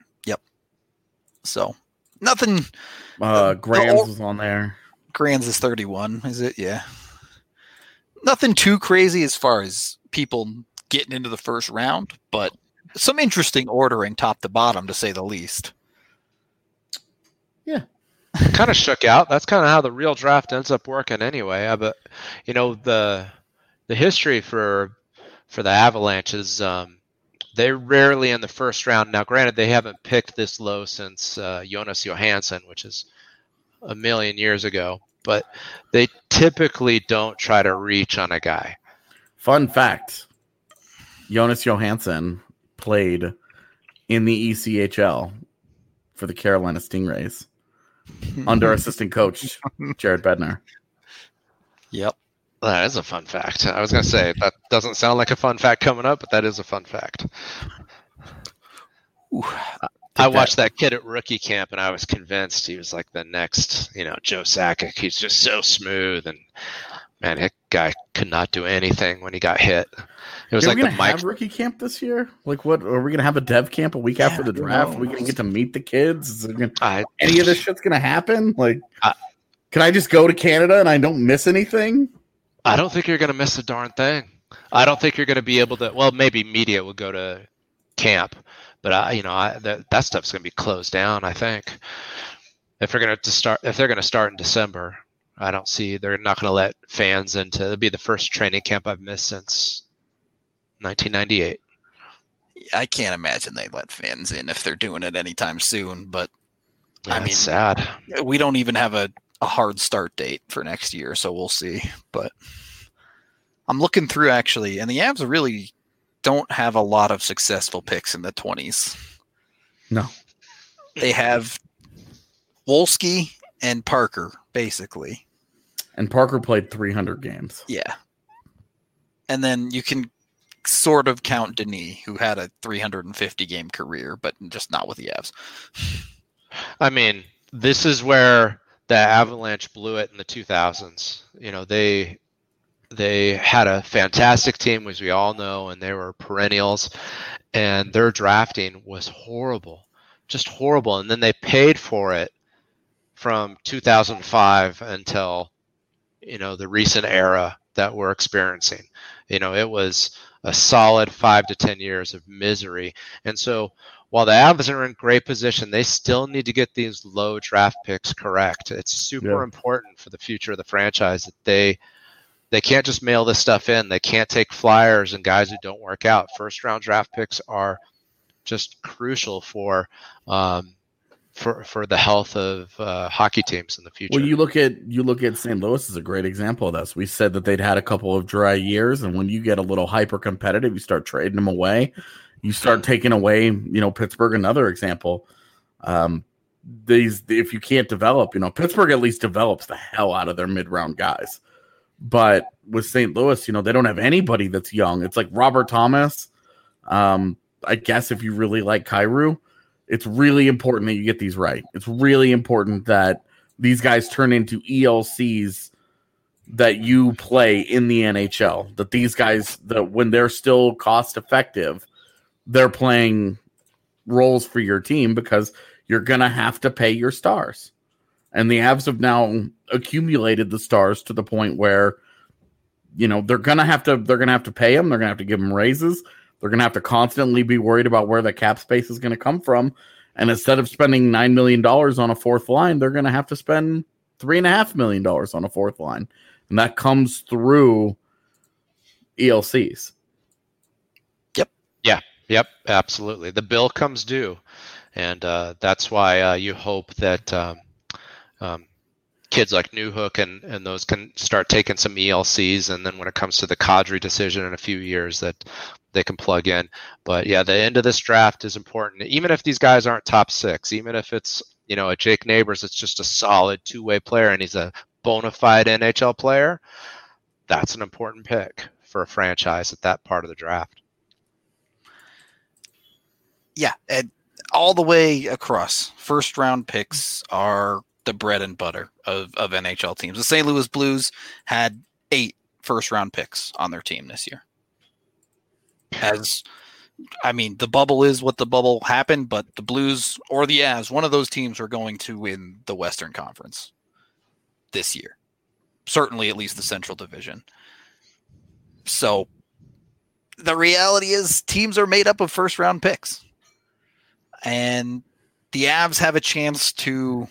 So nothing. Uh, The- Grams the- was on there. Grands is thirty-one, is it? Yeah. Nothing too crazy as far as people getting into the first round, but some interesting ordering top to bottom, to say the least. Kind of shook out. That's kind of how the real draft ends up working anyway. Uh, But you know the the history for for the Avalanche is um, they're rarely in the first round. Now, granted, they haven't picked this low since uh, Jonas Johansson, which is a million years ago. But they typically don't try to reach on a guy. Fun fact: Jonas Johansson played in the E C H L for the Carolina Stingrays under assistant coach Jared Bednar. Yep. That is a fun fact. I was going to say that doesn't sound like a fun fact coming up, but that is a fun fact. Ooh, I watched that kid at rookie camp, and I was convinced he was like the next, you know, Joe Sakic. He's just so smooth, and man, that guy could not do anything when he got hit. It was Are like we the gonna Mike. have rookie camp this year? Like, what are we gonna have a dev camp a week Yeah, after the who draft? Are we knows? gonna get to meet the kids? Is there gonna, I, any of this shit's gonna happen? Like, I- can I just go to Canada and I don't miss anything? I don't think you're going to miss a darn thing. I don't think you're going to be able to. Well, maybe media will go to camp, but I, you know, I, that that stuff's going to be closed down. I think if they're going to start, if they're going to start in December, I don't see they're not going to let fans into. It'll be the first training camp I've missed since nineteen ninety-eight. I can't imagine they let fans in if they're doing it anytime soon, but Yeah, I mean- it's sad. we don't even have a, a hard start date for next year, so we'll see. But I'm looking through actually, and the Avs really don't have a lot of successful picks in the twenties. No. They have Wolski and Parker, basically. And Parker played three hundred games. Yeah. And then you can sort of count Denis, who had a three hundred fifty game career, but just not with the Avs. I mean, this is where the Avalanche blew it in the two thousands. You know, they they had a fantastic team, as we all know, and they were perennials, and their drafting was horrible, just horrible. And then they paid for it from two thousand five until, you know, the recent era that we're experiencing. You know, it was a solid five to ten years of misery. And so while the Avs are in great position, they still need to get these low draft picks correct. It's super Yeah. important for the future of the franchise that they they can't just mail this stuff in. They can't take flyers and guys who don't work out. First round draft picks are just crucial for um, for for the health of uh, hockey teams in the future. Well, you look at you look at Saint Louis is a great example of this. We said that they'd had a couple of dry years, and when you get a little hyper competitive, you start trading them away. You start taking away, you know, Pittsburgh, another example. Um, these if you can't develop, you know, Pittsburgh at least develops the hell out of their mid round guys. But with Saint Louis, you know, they don't have anybody that's young. It's like Robert Thomas. Um, I guess if you really like Kyrou, it's really important that you get these right. It's really important that these guys turn into E L Cs that you play in the N H L. That these guys, that when they're still cost effective, they're playing roles for your team because you're going to have to pay your stars. And the Avs have now accumulated the stars to the point where, you know, they're going to have to, they're going to have to pay them. They're going to have to give them raises. They're going to have to constantly be worried about where the cap space is going to come from. And instead of spending nine million dollars on a fourth line, they're going to have to spend three and a half million dollars on a fourth line. And that comes through E L Cs. Yep. Yeah. Yep. Absolutely. The bill comes due. And uh, that's why uh, you hope that, um, Um, kids like Newhook and, and those can start taking some E L Cs, and then when it comes to the Kadri decision in a few years, that they can plug in. But yeah, the end of this draft is important. Even if these guys aren't top six, even if it's, you know, a Jake Neighbors, it's just a solid two-way player and he's a bona fide N H L player, that's an important pick for a franchise at that part of the draft. Yeah, and all the way across, first round picks are the bread and butter of, of N H L teams. The Saint Louis Blues had eight first round picks on their team this year. As I mean, the bubble is what the bubble happened, but the Blues or the Avs, one of those teams are going to win the Western Conference this year. Certainly at least the Central Division. So the reality is teams are made up of first round picks. And the Avs have a chance to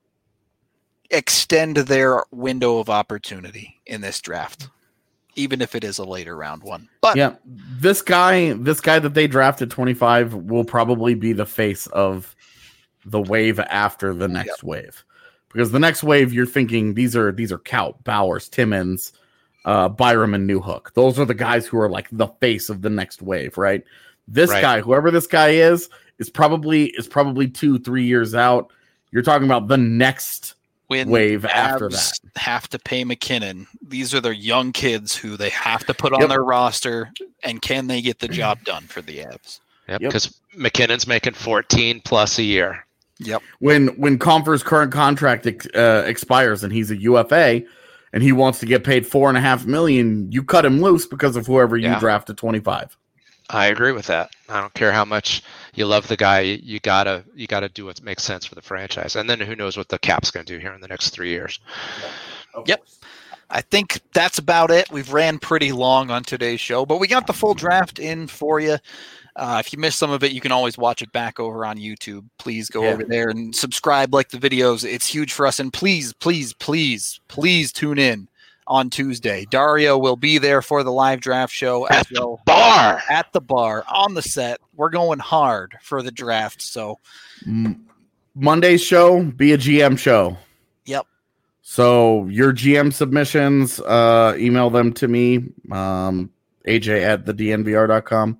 extend their window of opportunity in this draft, even if it is a later round one. But yeah, this guy, this guy that they drafted twenty-five will probably be the face of the wave after the next yep. wave, because the next wave you're thinking these are these are Kaut, Bowers, Timmins, uh, Byram, and Newhook. Those are the guys who are like the face of the next wave, right? This right. guy, whoever this guy is, is probably is probably two, three years out. You're talking about the next when wave after that. Have to pay McKinnon. These are their young kids who they have to put on yep. their roster, and can they get the job done for the Avs? Yep, because yep. McKinnon's making fourteen plus a year. Yep. When when Compher's current contract uh, expires and he's a U F A and he wants to get paid four and a half million, you cut him loose because of whoever you yeah. draft at twenty-five. I agree with that. I don't care how much you love the guy. You gotta you gotta do what makes sense for the franchise, and then who knows what the cap's going to do here in the next three years. Yeah, yep, I think that's about it. We've ran pretty long on today's show, but we got the full draft in for you. Uh, if you missed some of it, you can always watch it back over on YouTube. Please go yeah. over there and subscribe, like the videos. It's huge for us, and please, please, please, please tune in on Tuesday. Dario will be there for the live draft show as at well. The bar. At the bar, on the set. We're going hard for the draft. So Monday's show, be a G M show. Yep. So your G M submissions, uh, email them to me, um, A J at the D N V R dot com.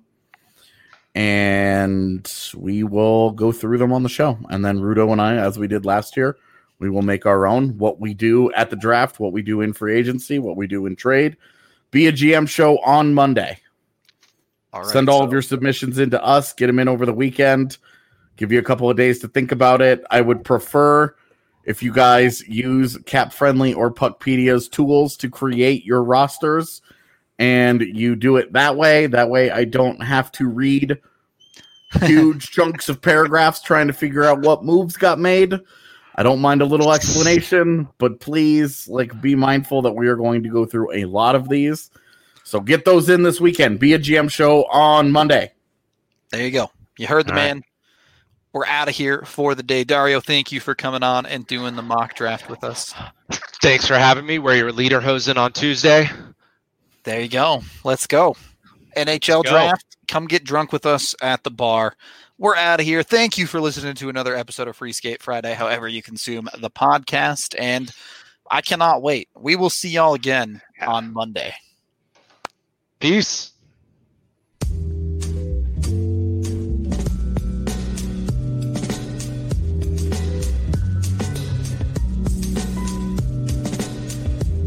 And we will go through them on the show. And then Rudo and I, as we did last year, we will make our own, what we do at the draft, what we do in free agency, what we do in trade. Be a G M show on Monday. All right, Send all so. of your submissions into us. Get them in over the weekend. Give you a couple of days to think about it. I would prefer if you guys use Cap Friendly or Puckpedia's tools to create your rosters, and you do it that way. That way I don't have to read huge chunks of paragraphs trying to figure out what moves got made. I don't mind a little explanation, but please, like, be mindful that we are going to go through a lot of these. So get those in this weekend. Be a G M show on Monday. There you go. You heard the All man. Right. We're out of here for the day. Dario, thank you for coming on and doing the mock draft with us. Thanks for having me. Wear your leader hosen on Tuesday. There you go. Let's go. N H L Let's go. draft. Come get drunk with us at the bar. We're out of here. Thank you for listening to another episode of Free Skate Friday, however you consume the podcast. And I cannot wait. We will see y'all again on Monday. Peace.